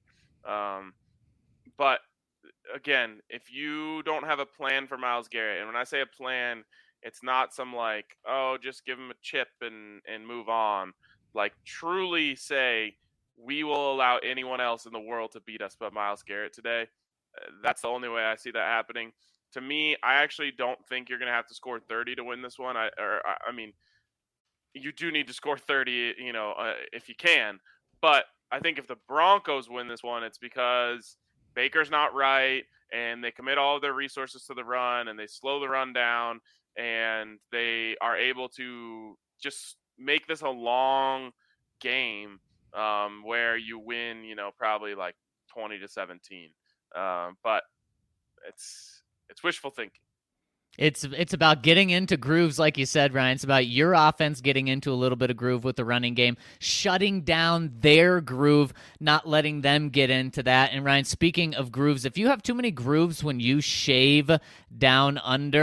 But, again, if you don't have a plan for Myles Garrett, and when I say a plan, it's not some like, oh, just give him a chip and move on. Like, truly say, we will allow anyone else in the world to beat us but Myles Garrett today. That's the only way I see that happening. To me, I actually don't think you're going to have to score 30 to win this one. I mean, you do need to score 30, if you can. But I think if the Broncos win this one, it's because Baker's not right, and they commit all of their resources to the run, and they slow the run down, and they are able to just make this a long game. Where you win, probably like 20-17. But it's wishful thinking. It's about getting into grooves, like you said, Ryan. It's about your offense getting into a little bit of groove with the running game, shutting down their groove, not letting them get into that. And Ryan, speaking of grooves, if you have too many grooves when you shave down under,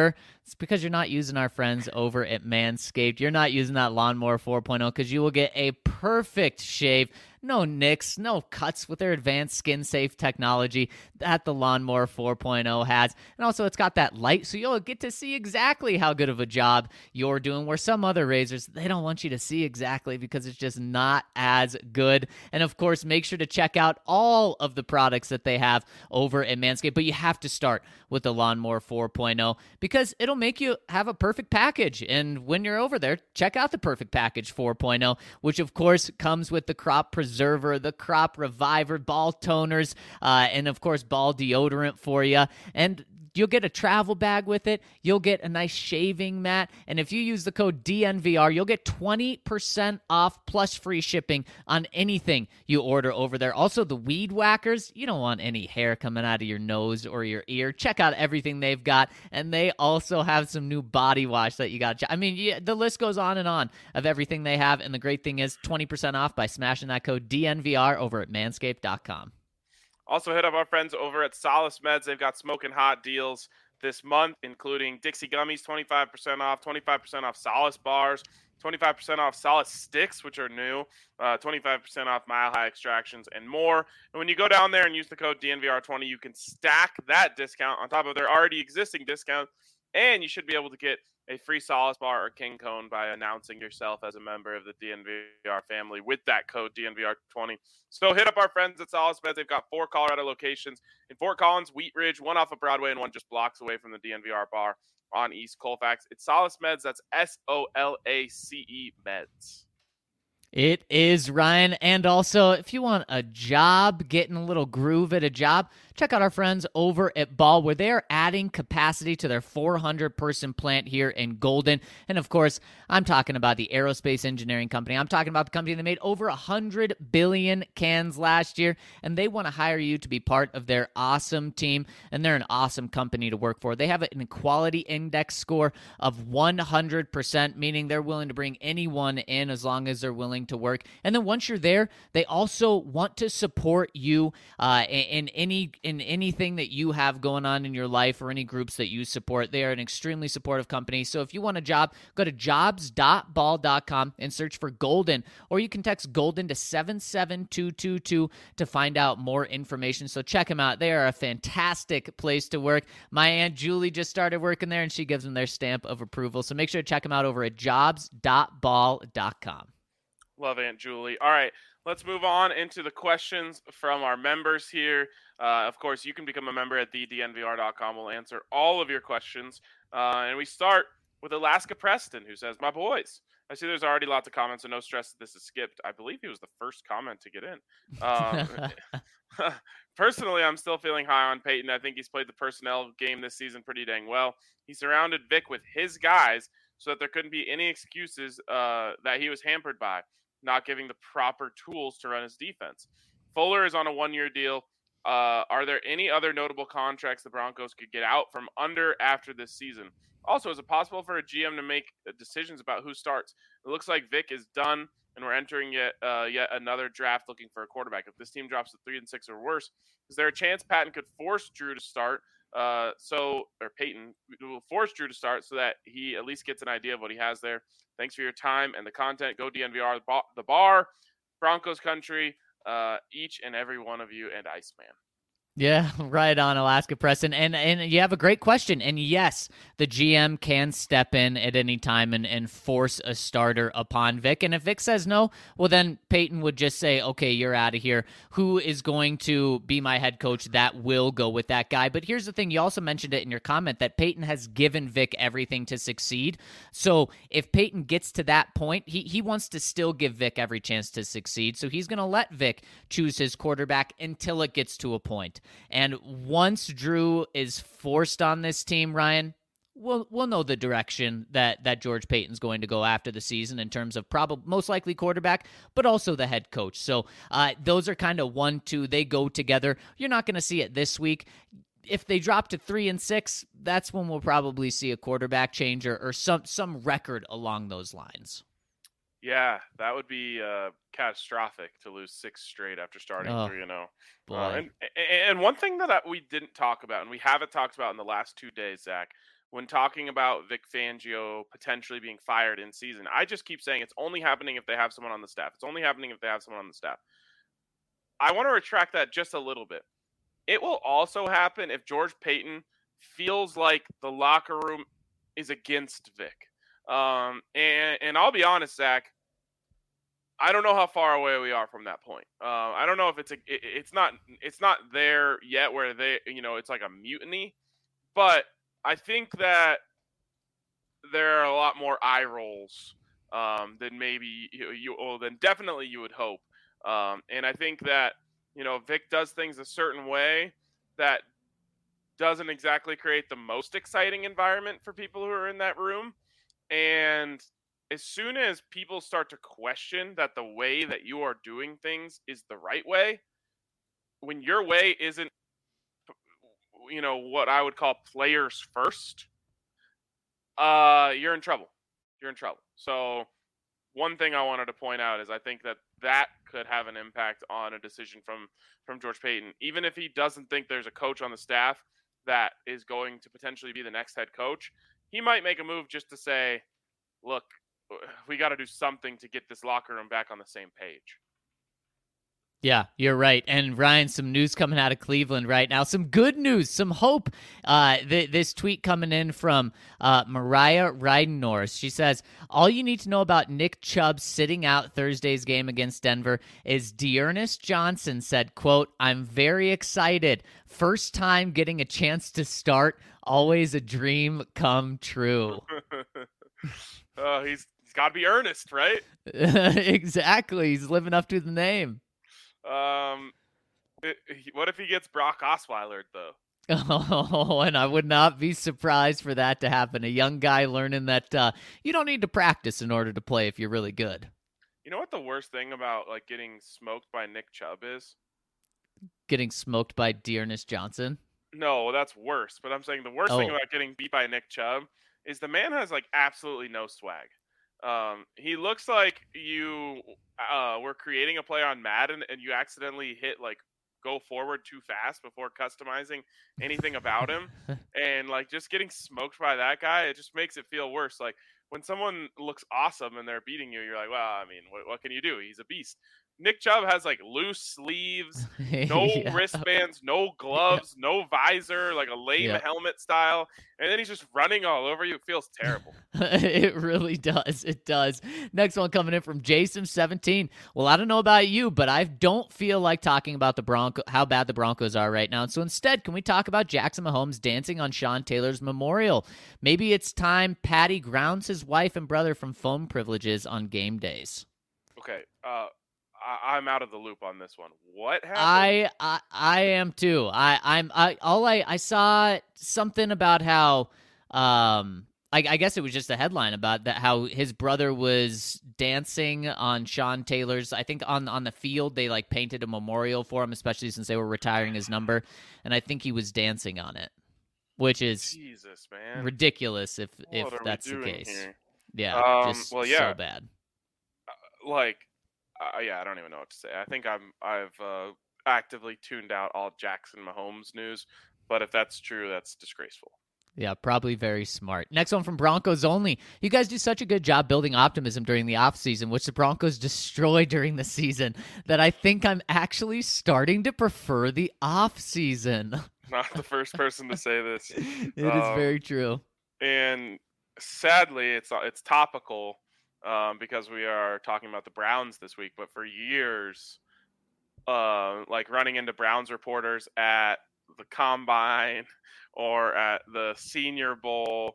It's because you're not using our friends over at Manscaped. You're not using that Lawnmower 4.0 because you will get a perfect shave. No nicks, no cuts with their advanced skin-safe technology that the Lawnmower 4.0 has. And also, it's got that light, so you'll get to see exactly how good of a job you're doing, where some other razors, they don't want you to see exactly because it's just not as good. And, of course, make sure to check out all of the products that they have over at Manscaped. But you have to start with the Lawnmower 4.0 because it'll make you have a perfect package. And when you're over there, check out the Perfect Package 4.0, which, of course, comes with the Crop Preserver, the Crop Reviver, ball toners, and of course ball deodorant for you. And you'll get a travel bag with it. You'll get a nice shaving mat. And if you use the code DNVR, you'll get 20% off plus free shipping on anything you order over there. Also, the weed whackers, you don't want any hair coming out of your nose or your ear. Check out everything they've got. And they also have some new body wash that you got to check. I mean, the list goes on of everything they have. And the great thing is 20% off by smashing that code DNVR over at manscaped.com. Also, hit up our friends over at Solace Meds. They've got smoking hot deals this month, including Dixie Gummies, 25% off, 25% off Solace Bars, 25% off Solace Sticks, which are new, 25% off Mile High Extractions, and more. And when you go down there and use the code DNVR20, you can stack that discount on top of their already existing discount, and you should be able to get a free Solace Bar or King Cone by announcing yourself as a member of the DNVR family with that code DNVR20. So hit up our friends at Solace Meds. They've got 4 Colorado locations in Fort Collins, Wheat Ridge, one off of Broadway, and one just blocks away from the DNVR bar on East Colfax. It's Solace Meds. That's SOLACE Meds. It is, Ryan. And also, if you want a job, getting a little groove at a job, check out our friends over at Ball, where they're adding capacity to their 400-person plant here in Golden. And, of course, I'm talking about the Aerospace Engineering Company. I'm talking about the company that made over 100 billion cans last year, and they want to hire you to be part of their awesome team, and they're an awesome company to work for. They have an equality index score of 100%, meaning they're willing to bring anyone in as long as they're willing to work. And then once you're there, they also want to support you in anything that you have going on in your life or any groups that you support. They are an extremely supportive company. So if you want a job, go to jobs.ball.com and search for Golden, or you can text Golden to 77222 to find out more information. So check them out. They are a fantastic place to work. My Aunt Julie just started working there, and she gives them their stamp of approval. So make sure to check them out over at jobs.ball.com. Love Aunt Julie. All right, let's move on into the questions from our members here. Of course, you can become a member at thednvr.com. We'll answer all of your questions. And we start with Alaska Preston, who says, "My boys." I see there's already lots of comments, so no stress that this is skipped. I believe he was the first comment to get in. Personally, I'm still feeling high on Peyton. I think he's played the personnel game this season pretty dang well. He surrounded Vic with his guys so that there couldn't be any excuses that he was hampered by not giving the proper tools to run his defense. Fuller is on a 1-year deal. Are there any other notable contracts the Broncos could get out from under after this season? Also, is it possible for a GM to make decisions about who starts? It looks like Vic is done, and we're entering yet another draft looking for a quarterback. If this team drops to 3-6 or worse, is there a chance Patton could force Drew to start? Peyton will force Drew to start so that he at least gets an idea of what he has there. Thanks for your time and the content. Go DNVR, the bar, Broncos country, each and every one of you, and Iceman. Yeah, right on, Alaska Preston. And you have a great question. And yes, the GM can step in at any time and force a starter upon Vic. And if Vic says no, well, then Peyton would just say, okay, you're out of here. Who is going to be my head coach? That will go with that guy. But here's the thing. You also mentioned it in your comment that Peyton has given Vic everything to succeed. So if Peyton gets to that point, he wants to still give Vic every chance to succeed. So he's going to let Vic choose his quarterback until it gets to a point. And once Drew is forced on this team, Ryan, we'll know the direction that George Payton's going to go after the season in terms of most likely quarterback, but also the head coach. So those are kind of 1-2. They go together. You're not going to see it this week. If they drop to 3-6, that's when we'll probably see a quarterback change or some record along those lines. Yeah, that would be catastrophic to lose 6 straight after starting 3-0. And one thing that we didn't talk about, and we haven't talked about in the last 2 days, Zach, when talking about Vic Fangio potentially being fired in season. I just keep saying it's only happening if they have someone on the staff. It's only happening if they have someone on the staff. I want to retract that just a little bit. It will also happen if George Paton feels like the locker room is against Vic. And I'll be honest, Zach, I don't know how far away we are from that point. I don't know if it's not there yet where it's like a mutiny, but I think that there are a lot more eye rolls than maybe than definitely you would hope. And I think that, Vic does things a certain way that doesn't exactly create the most exciting environment for people who are in that room. And as soon as people start to question that the way that you are doing things is the right way, when your way isn't, what I would call players first, you're in trouble. You're in trouble. So one thing I wanted to point out is I think that could have an impact on a decision from George Paton. Even if he doesn't think there's a coach on the staff that is going to potentially be the next head coach, he might make a move just to say, look, we got to do something to get this locker room back on the same page. Yeah, you're right. And Ryan, some news coming out of Cleveland right now. Some good news, some hope. This tweet coming in from Mariah Reidenors. She says, all you need to know about Nick Chubb sitting out Thursday's game against Denver is D'Ernest Johnson said, quote, I'm very excited. First time getting a chance to start. Always a dream come true. He's got to be earnest, right? Exactly. He's living up to the name. What if he gets Brock Osweiler though? Oh, and I would not be surprised for that to happen. A young guy learning that you don't need to practice in order to play if you're really good. You know what the worst thing about like getting smoked by Nick Chubb is? Getting smoked by D'Ernest Johnson? No, that's worse. But I'm saying the worst thing about getting beat by Nick Chubb is the man has like absolutely no swag. He looks like you were creating a play on Madden and you accidentally hit like go forward too fast before customizing anything about him. And like just getting smoked by that guy, it just makes it feel worse. Like when someone looks awesome and they're beating you, you're like, well, I mean, what can you do? He's a beast. Nick Chubb has like loose sleeves, no wristbands, no gloves, no visor, like a lame helmet style. And then he's just running all over you. It feels terrible. It really does. It does. Next one coming in from Jason17. Well, I don't know about you, but I don't feel like talking about how bad the Broncos are right now. And so instead, can we talk about Jackson Mahomes dancing on Sean Taylor's memorial? Maybe it's time Patty grounds his wife and brother from phone privileges on game days. Okay. I'm out of the loop on this one. What happened? I am too. I saw something about how I guess it was just a headline about that how his brother was dancing on Sean Taylor's. I think on the field they like painted a memorial for him, especially since they were retiring his number, and I think he was dancing on it, which is Jesus, man, ridiculous if that's the case. Here? Yeah, so bad. Yeah, I don't even know what to say. I think I've actively tuned out all Jackson Mahomes news, but if that's true, that's disgraceful. Yeah, probably very smart. Next one from Broncos Only. You guys do such a good job building optimism during the offseason, which the Broncos destroy during the season, that I think I'm actually starting to prefer the offseason. Not the first person to say this. It is very true. And sadly, it's topical. Because we are talking about the Browns this week, but for years, like running into Browns reporters at the Combine or at the Senior Bowl,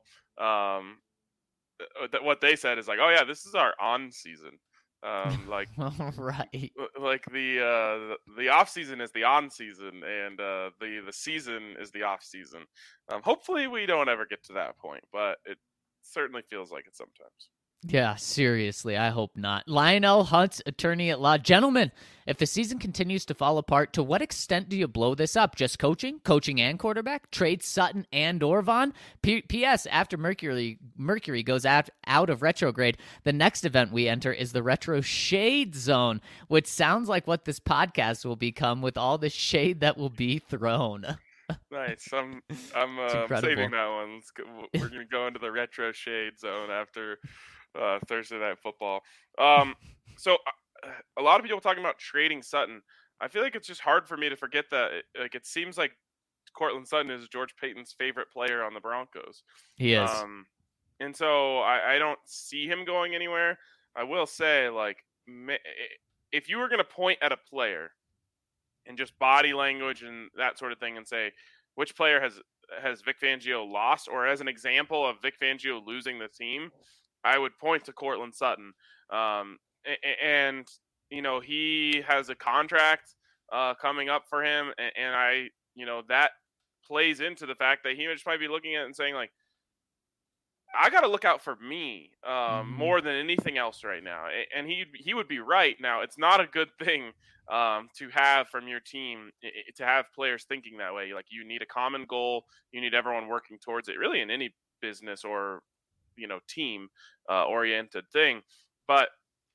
what they said is like, "Oh yeah, this is our on season." Like right, like the off season is the on season, and the season is the off season. Hopefully, we don't ever get to that point, but it certainly feels like it sometimes. Yeah, seriously, I hope not. Lionel Hunt's attorney at law. Gentlemen, if the season continues to fall apart, to what extent do you blow this up? Just coaching and quarterback? Trade Sutton and Orvon? P.S. After Mercury goes out of retrograde, the next event we enter is the Retro Shade Zone, which sounds like what this podcast will become with all the shade that will be thrown. Nice. I'm It's incredible. saving that one. We're gonna go into the retro shade zone after Thursday Night Football. So a lot of people talking about trading Sutton. I feel like it's just hard for me to forget that. It seems like Cortland Sutton is George Payton's favorite player on the Broncos. He is. And so I don't see him going anywhere. I will say, like, if you were going to point at a player and just body language and that sort of thing and say, which player has Vic Fangio lost, or as an example of Vic Fangio losing the team, I would point to Cortland Sutton. And, you know, he has a contract coming up for him. And that plays into the fact that he just might be looking at it and saying, like, I got to look out for me more than anything else right now. And he would be right. Now, it's not a good thing to have from your team, to have players thinking that way. Like, you need a common goal. You need everyone working towards it, really, in any business or, team oriented thing. But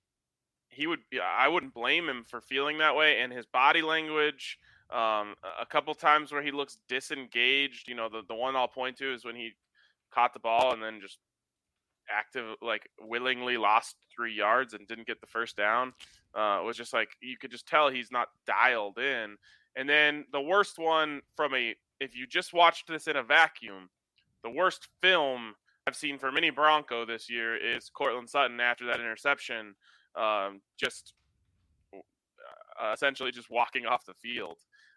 I wouldn't blame him for feeling that way. And his body language, a couple times where he looks disengaged, the one I'll point to is when he caught the ball and then just willingly lost 3 yards and didn't get the first down. It was just like, you could just tell he's not dialed in. And then the worst one if you just watched this in a vacuum, the worst film I've seen from any Bronco this year is Cortland Sutton after that interception, essentially just walking off the field.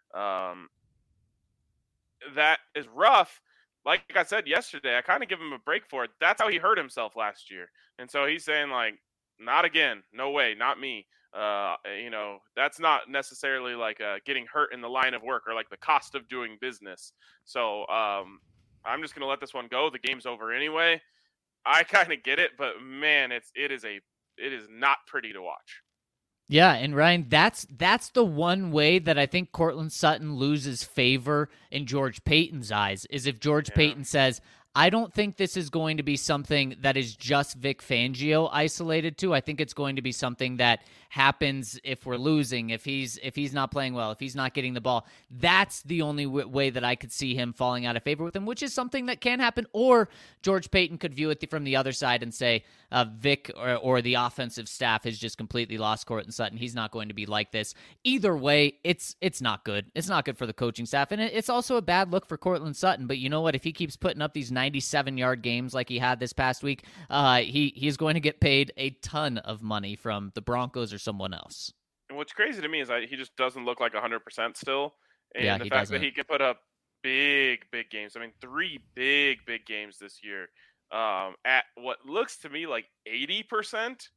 That is rough. Like I said yesterday, I kind of give him a break for it. That's how he hurt himself last year. And so he's saying, like, not again. No way. Not me. That's not necessarily like getting hurt in the line of work or like the cost of doing business. So I'm just going to let this one go. The game's over anyway. I kind of get it, but man, it is not pretty to watch. Yeah, and Ryan, that's the one way that I think Cortland Sutton loses favor in George Payton's eyes, is if George Payton says, I don't think this is going to be something that is just Vic Fangio isolated to. I think it's going to be something that happens if we're losing, if he's not playing well, if he's not getting the ball. That's the only way that I could see him falling out of favor with him, which is something that can happen. Or George Payton could view it from the other side and say Vic or the offensive staff has just completely lost Cortland Sutton. He's not going to be like this. Either way, it's not good. It's not good for the coaching staff, and it's also a bad look for Cortland Sutton. But you know what? If he keeps putting up these 97-yard games like he had this past week, he's going to get paid a ton of money from the Broncos or someone else. And what's crazy to me is he just doesn't look like 100% still. And the fact doesn't. that he can put up big games. I mean, 3 big games this year at what looks to me like 80%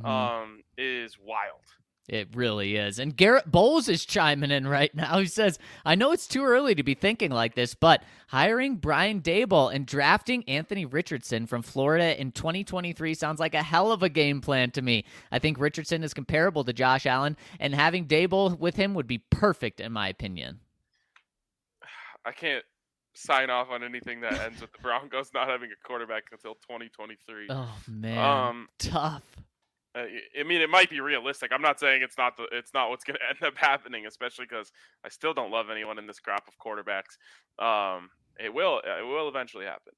is wild. It really is. And Garrett Bowles is chiming in right now. He says, I know it's too early to be thinking like this, but hiring Brian Daboll and drafting Anthony Richardson from Florida in 2023 sounds like a hell of a game plan to me. I think Richardson is comparable to Josh Allen, and having Daboll with him would be perfect in my opinion. I can't sign off on anything that ends with the Broncos not having a quarterback until 2023. Oh, man. Tough. I mean, it might be realistic. I'm not saying it's not what's going to end up happening, especially because I still don't love anyone in this crop of quarterbacks. It will eventually happen.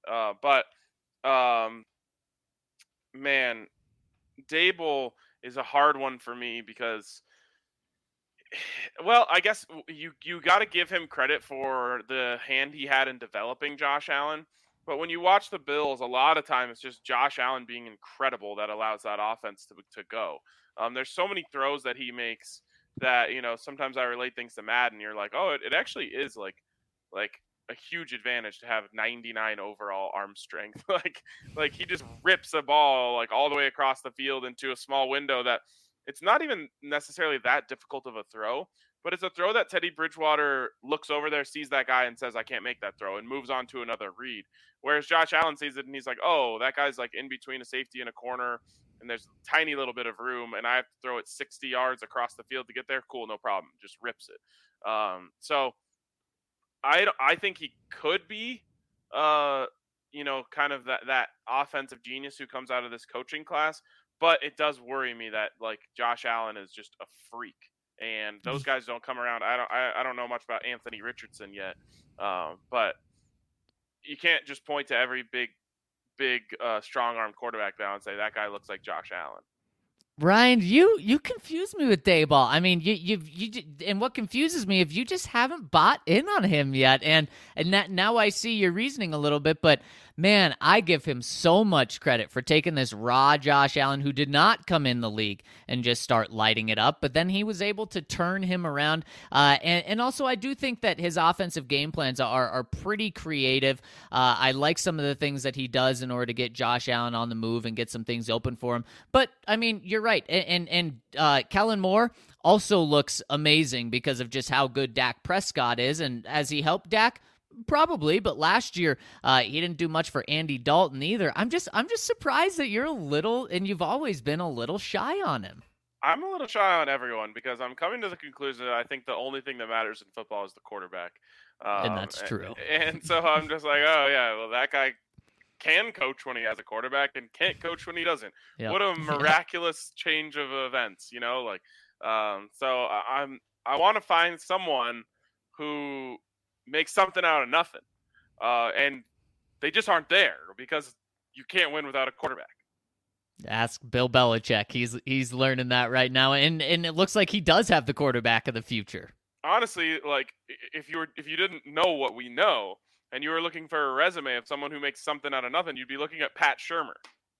Man, Daboll is a hard one for me because, well, I guess you got to give him credit for the hand he had in developing Josh Allen. But when you watch the Bills, a lot of time it's just Josh Allen being incredible that allows that offense to go. There's so many throws that he makes that, sometimes I relate things to Madden. You're like, oh, it actually is like a huge advantage to have 99 overall arm strength. like he just rips a ball like all the way across the field into a small window that it's not even necessarily that difficult of a throw. But it's a throw that Teddy Bridgewater looks over there, sees that guy, and says, I can't make that throw, and moves on to another read. Whereas Josh Allen sees it, and he's like, oh, that guy's like in between a safety and a corner, and there's a tiny little bit of room, and I have to throw it 60 yards across the field to get there. Cool, no problem. Just rips it. So I think he could be, kind of that offensive genius who comes out of this coaching class. But it does worry me that, like, Josh Allen is just a freak. and those guys don't come around. I don't know much about Anthony Richardson yet, but you can't just point to every big strong arm quarterback now and say that guy looks like Josh Allen. Ryan, you confuse me with Daboll. I mean, you and what confuses me if you just haven't bought in on him yet, and that now I see your reasoning a little bit. But man, I give him so much credit for taking this raw Josh Allen, who did not come in the league and just start lighting it up, but then he was able to turn him around. And also, I do think that his offensive game plans are pretty creative. I like some of the things that he does in order to get Josh Allen on the move and get some things open for him. But I mean, you're right. And Kellen Moore also looks amazing because of just how good Dak Prescott is. And as he helped Dak, probably, but last year he didn't do much for Andy Dalton either. I'm just surprised that you're a little, and you've always been a little shy on him. I'm a little shy on everyone because I'm coming to the conclusion that I think the only thing that matters in football is the quarterback. And that's true. And so I'm just like, oh yeah, well that guy can coach when he has a quarterback and can't coach when he doesn't. Yep. What a miraculous change of events, you know? Like, so I want to find someone who makes something out of nothing, and they just aren't there because you can't win without a quarterback. Ask Bill Belichick. He's learning that right now, and it looks like he does have the quarterback of the future. Honestly, like if you didn't know what we know, and you were looking for a resume of someone who makes something out of nothing, you'd be looking at Pat Shurmur.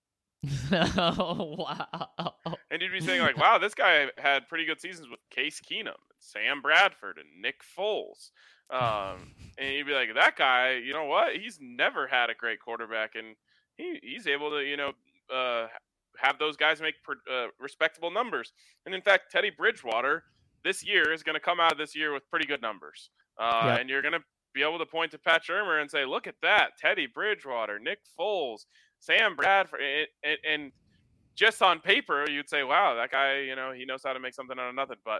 Oh, wow. And you'd be saying, like, wow, this guy had pretty good seasons with Case Keenum, Sam Bradford, and Nick Foles. And you'd be like, that guy, you know what? He's never had a great quarterback, and he's able to, you know, have those guys make respectable numbers. And in fact, Teddy Bridgewater this year is going to come out of this year with pretty good numbers. Yep. And you're going to be able to point to Pat Shurmur and say, look at that, Teddy Bridgewater, Nick Foles, Sam Bradford, and just on paper, you'd say, wow, that guy, you know, he knows how to make something out of nothing. But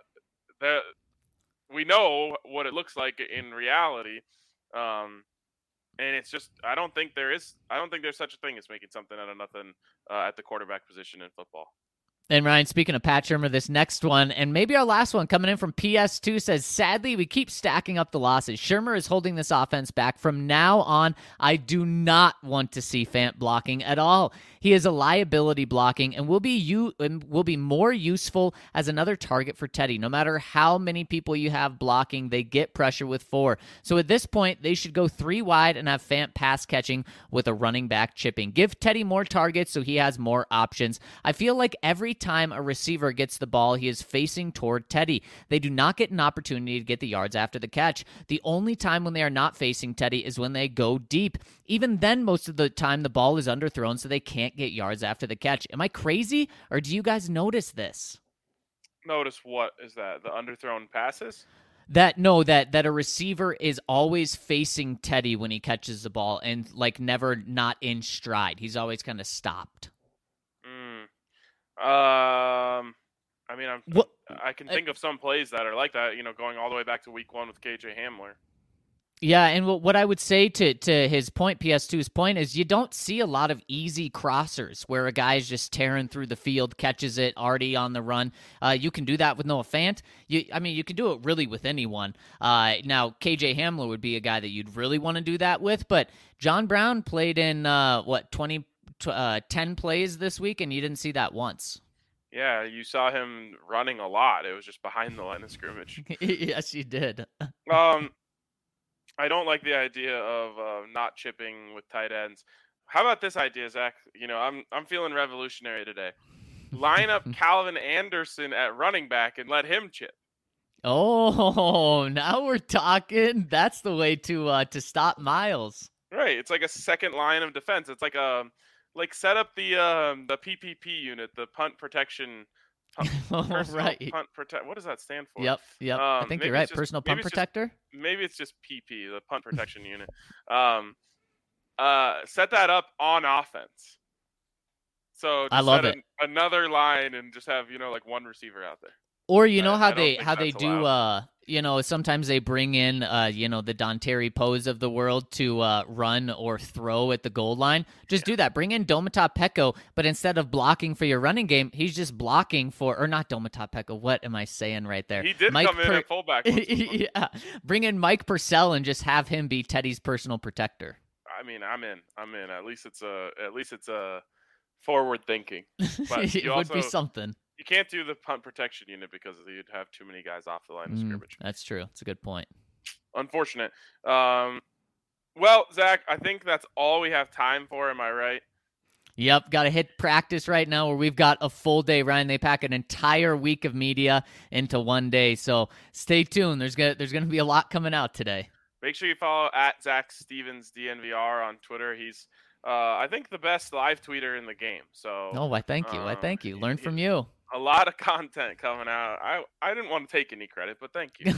we know what it looks like in reality. And it's just, I don't think there's such a thing as making something out of nothing at the quarterback position in football. And Ryan, speaking of Pat Shurmur, this next one, and maybe our last one coming in from PS2 says, sadly, we keep stacking up the losses. Shurmur is holding this offense back. From now on, I do not want to see Fant blocking at all. He is a liability blocking and will be more useful as another target for Teddy. No matter how many people you have blocking, they get pressure with 4. So at this point, they should go 3 wide and have Fant pass catching with a running back chipping. Give Teddy more targets so he has more options. I feel like every time a receiver gets the ball, he is facing toward Teddy. They do not get an opportunity to get the yards after the catch. The only time when they are not facing Teddy is when they go deep. Even then, most of the time, the ball is underthrown, so they can't get yards after the catch. Am I crazy, or do you guys notice this? Notice what is that? The underthrown passes? That a receiver is always facing Teddy when he catches the ball and like never not in stride. He's always kind of stopped. I mean, I can think of some plays that are like that, you know, going all the way back to week 1 with KJ Hamler. Yeah, and what I would say to his point, PS2's point, is you don't see a lot of easy crossers where a guy is just tearing through the field, catches it already on the run. You can do that with Noah Fant. You can do it really with anyone. Now, KJ Hamler would be a guy that you'd really want to do that with, but John Brown played in, 10 plays this week, and you didn't see that once. Yeah, you saw him running a lot. It was just behind the line of scrimmage. Yes, you did. I don't like the idea of not chipping with tight ends. How about this idea, Zach? You know, I'm feeling revolutionary today. Line up Calvin Anderson at running back and let him chip. Oh, now we're talking. That's the way to stop Miles. Right. It's like a second line of defense. It's like set up the PPP unit, the punt protection. Right. Punt protect. What does that stand for? Yep. I think you're right. Personal punt protector. Maybe it's just PP, the punt protection unit. Set that up on offense. So just I love it. Another line and just have, you know, like one receiver out there. Or you know I how don't they think that's do allowed. sometimes they bring in the Don Terry Pose of the world to run or throw at the goal line. Just do that. Bring in Domata Peko, but instead of blocking for your running game, he's just blocking for, or not Domata Peko. What am I saying right there? He did come in at fullback. Yeah. Bring in Mike Purcell and just have him be Teddy's personal protector. I mean, I'm in. At least it's a forward thinking. But It would be something. You can't do the punt protection unit because you'd have too many guys off the line of scrimmage. That's true. It's a good point. Unfortunate. Well, Zach, I think that's all we have time for. Am I right? Yep, got to hit practice right now where we've got a full day, Ryan. They pack an entire week of media into one day, so stay tuned. There's gonna be a lot coming out today. Make sure you follow at Zach Stevens DNVR on Twitter. He's, I think, the best live tweeter in the game. So. Oh, I thank you. Learn from you. A lot of content coming out. I didn't want to take any credit, but thank you.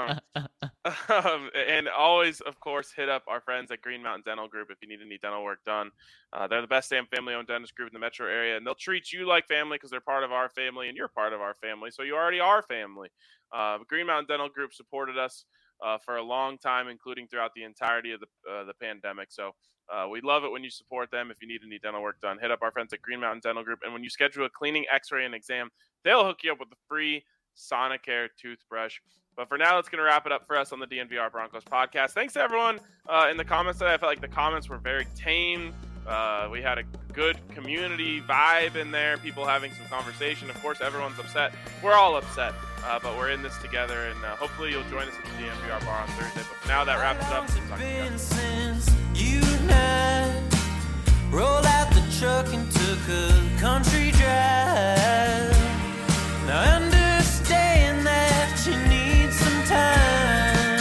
And always, of course, hit up our friends at Green Mountain Dental Group if you need any dental work done. They're the best damn family-owned dentist group in the metro area, and they'll treat you like family because they're part of our family, and you're part of our family, so you already are family. Green Mountain Dental Group supported us for a long time, including throughout the entirety of the pandemic. So we love it when you support them. If you need any dental work done, hit up our friends at Green Mountain Dental Group. And when you schedule a cleaning, x-ray, and exam, they'll hook you up with a free Sonicare toothbrush. But for now, that's going to wrap it up for us on the DNVR Broncos podcast. Thanks to everyone in the comments today. I felt like the comments were very tame. We had a good community vibe in there, people having some conversation. Of course, everyone's upset. We're all upset, but we're in this together, and hopefully you'll join us at the DNVR bar on Thursday. But for now, that wraps it up. Since you and I rolled out the truck and took a country drive. Now I understand that you need some time.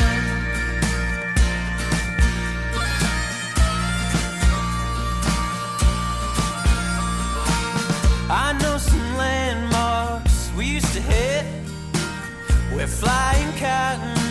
I know some landmarks we used to hit. We're flying cotton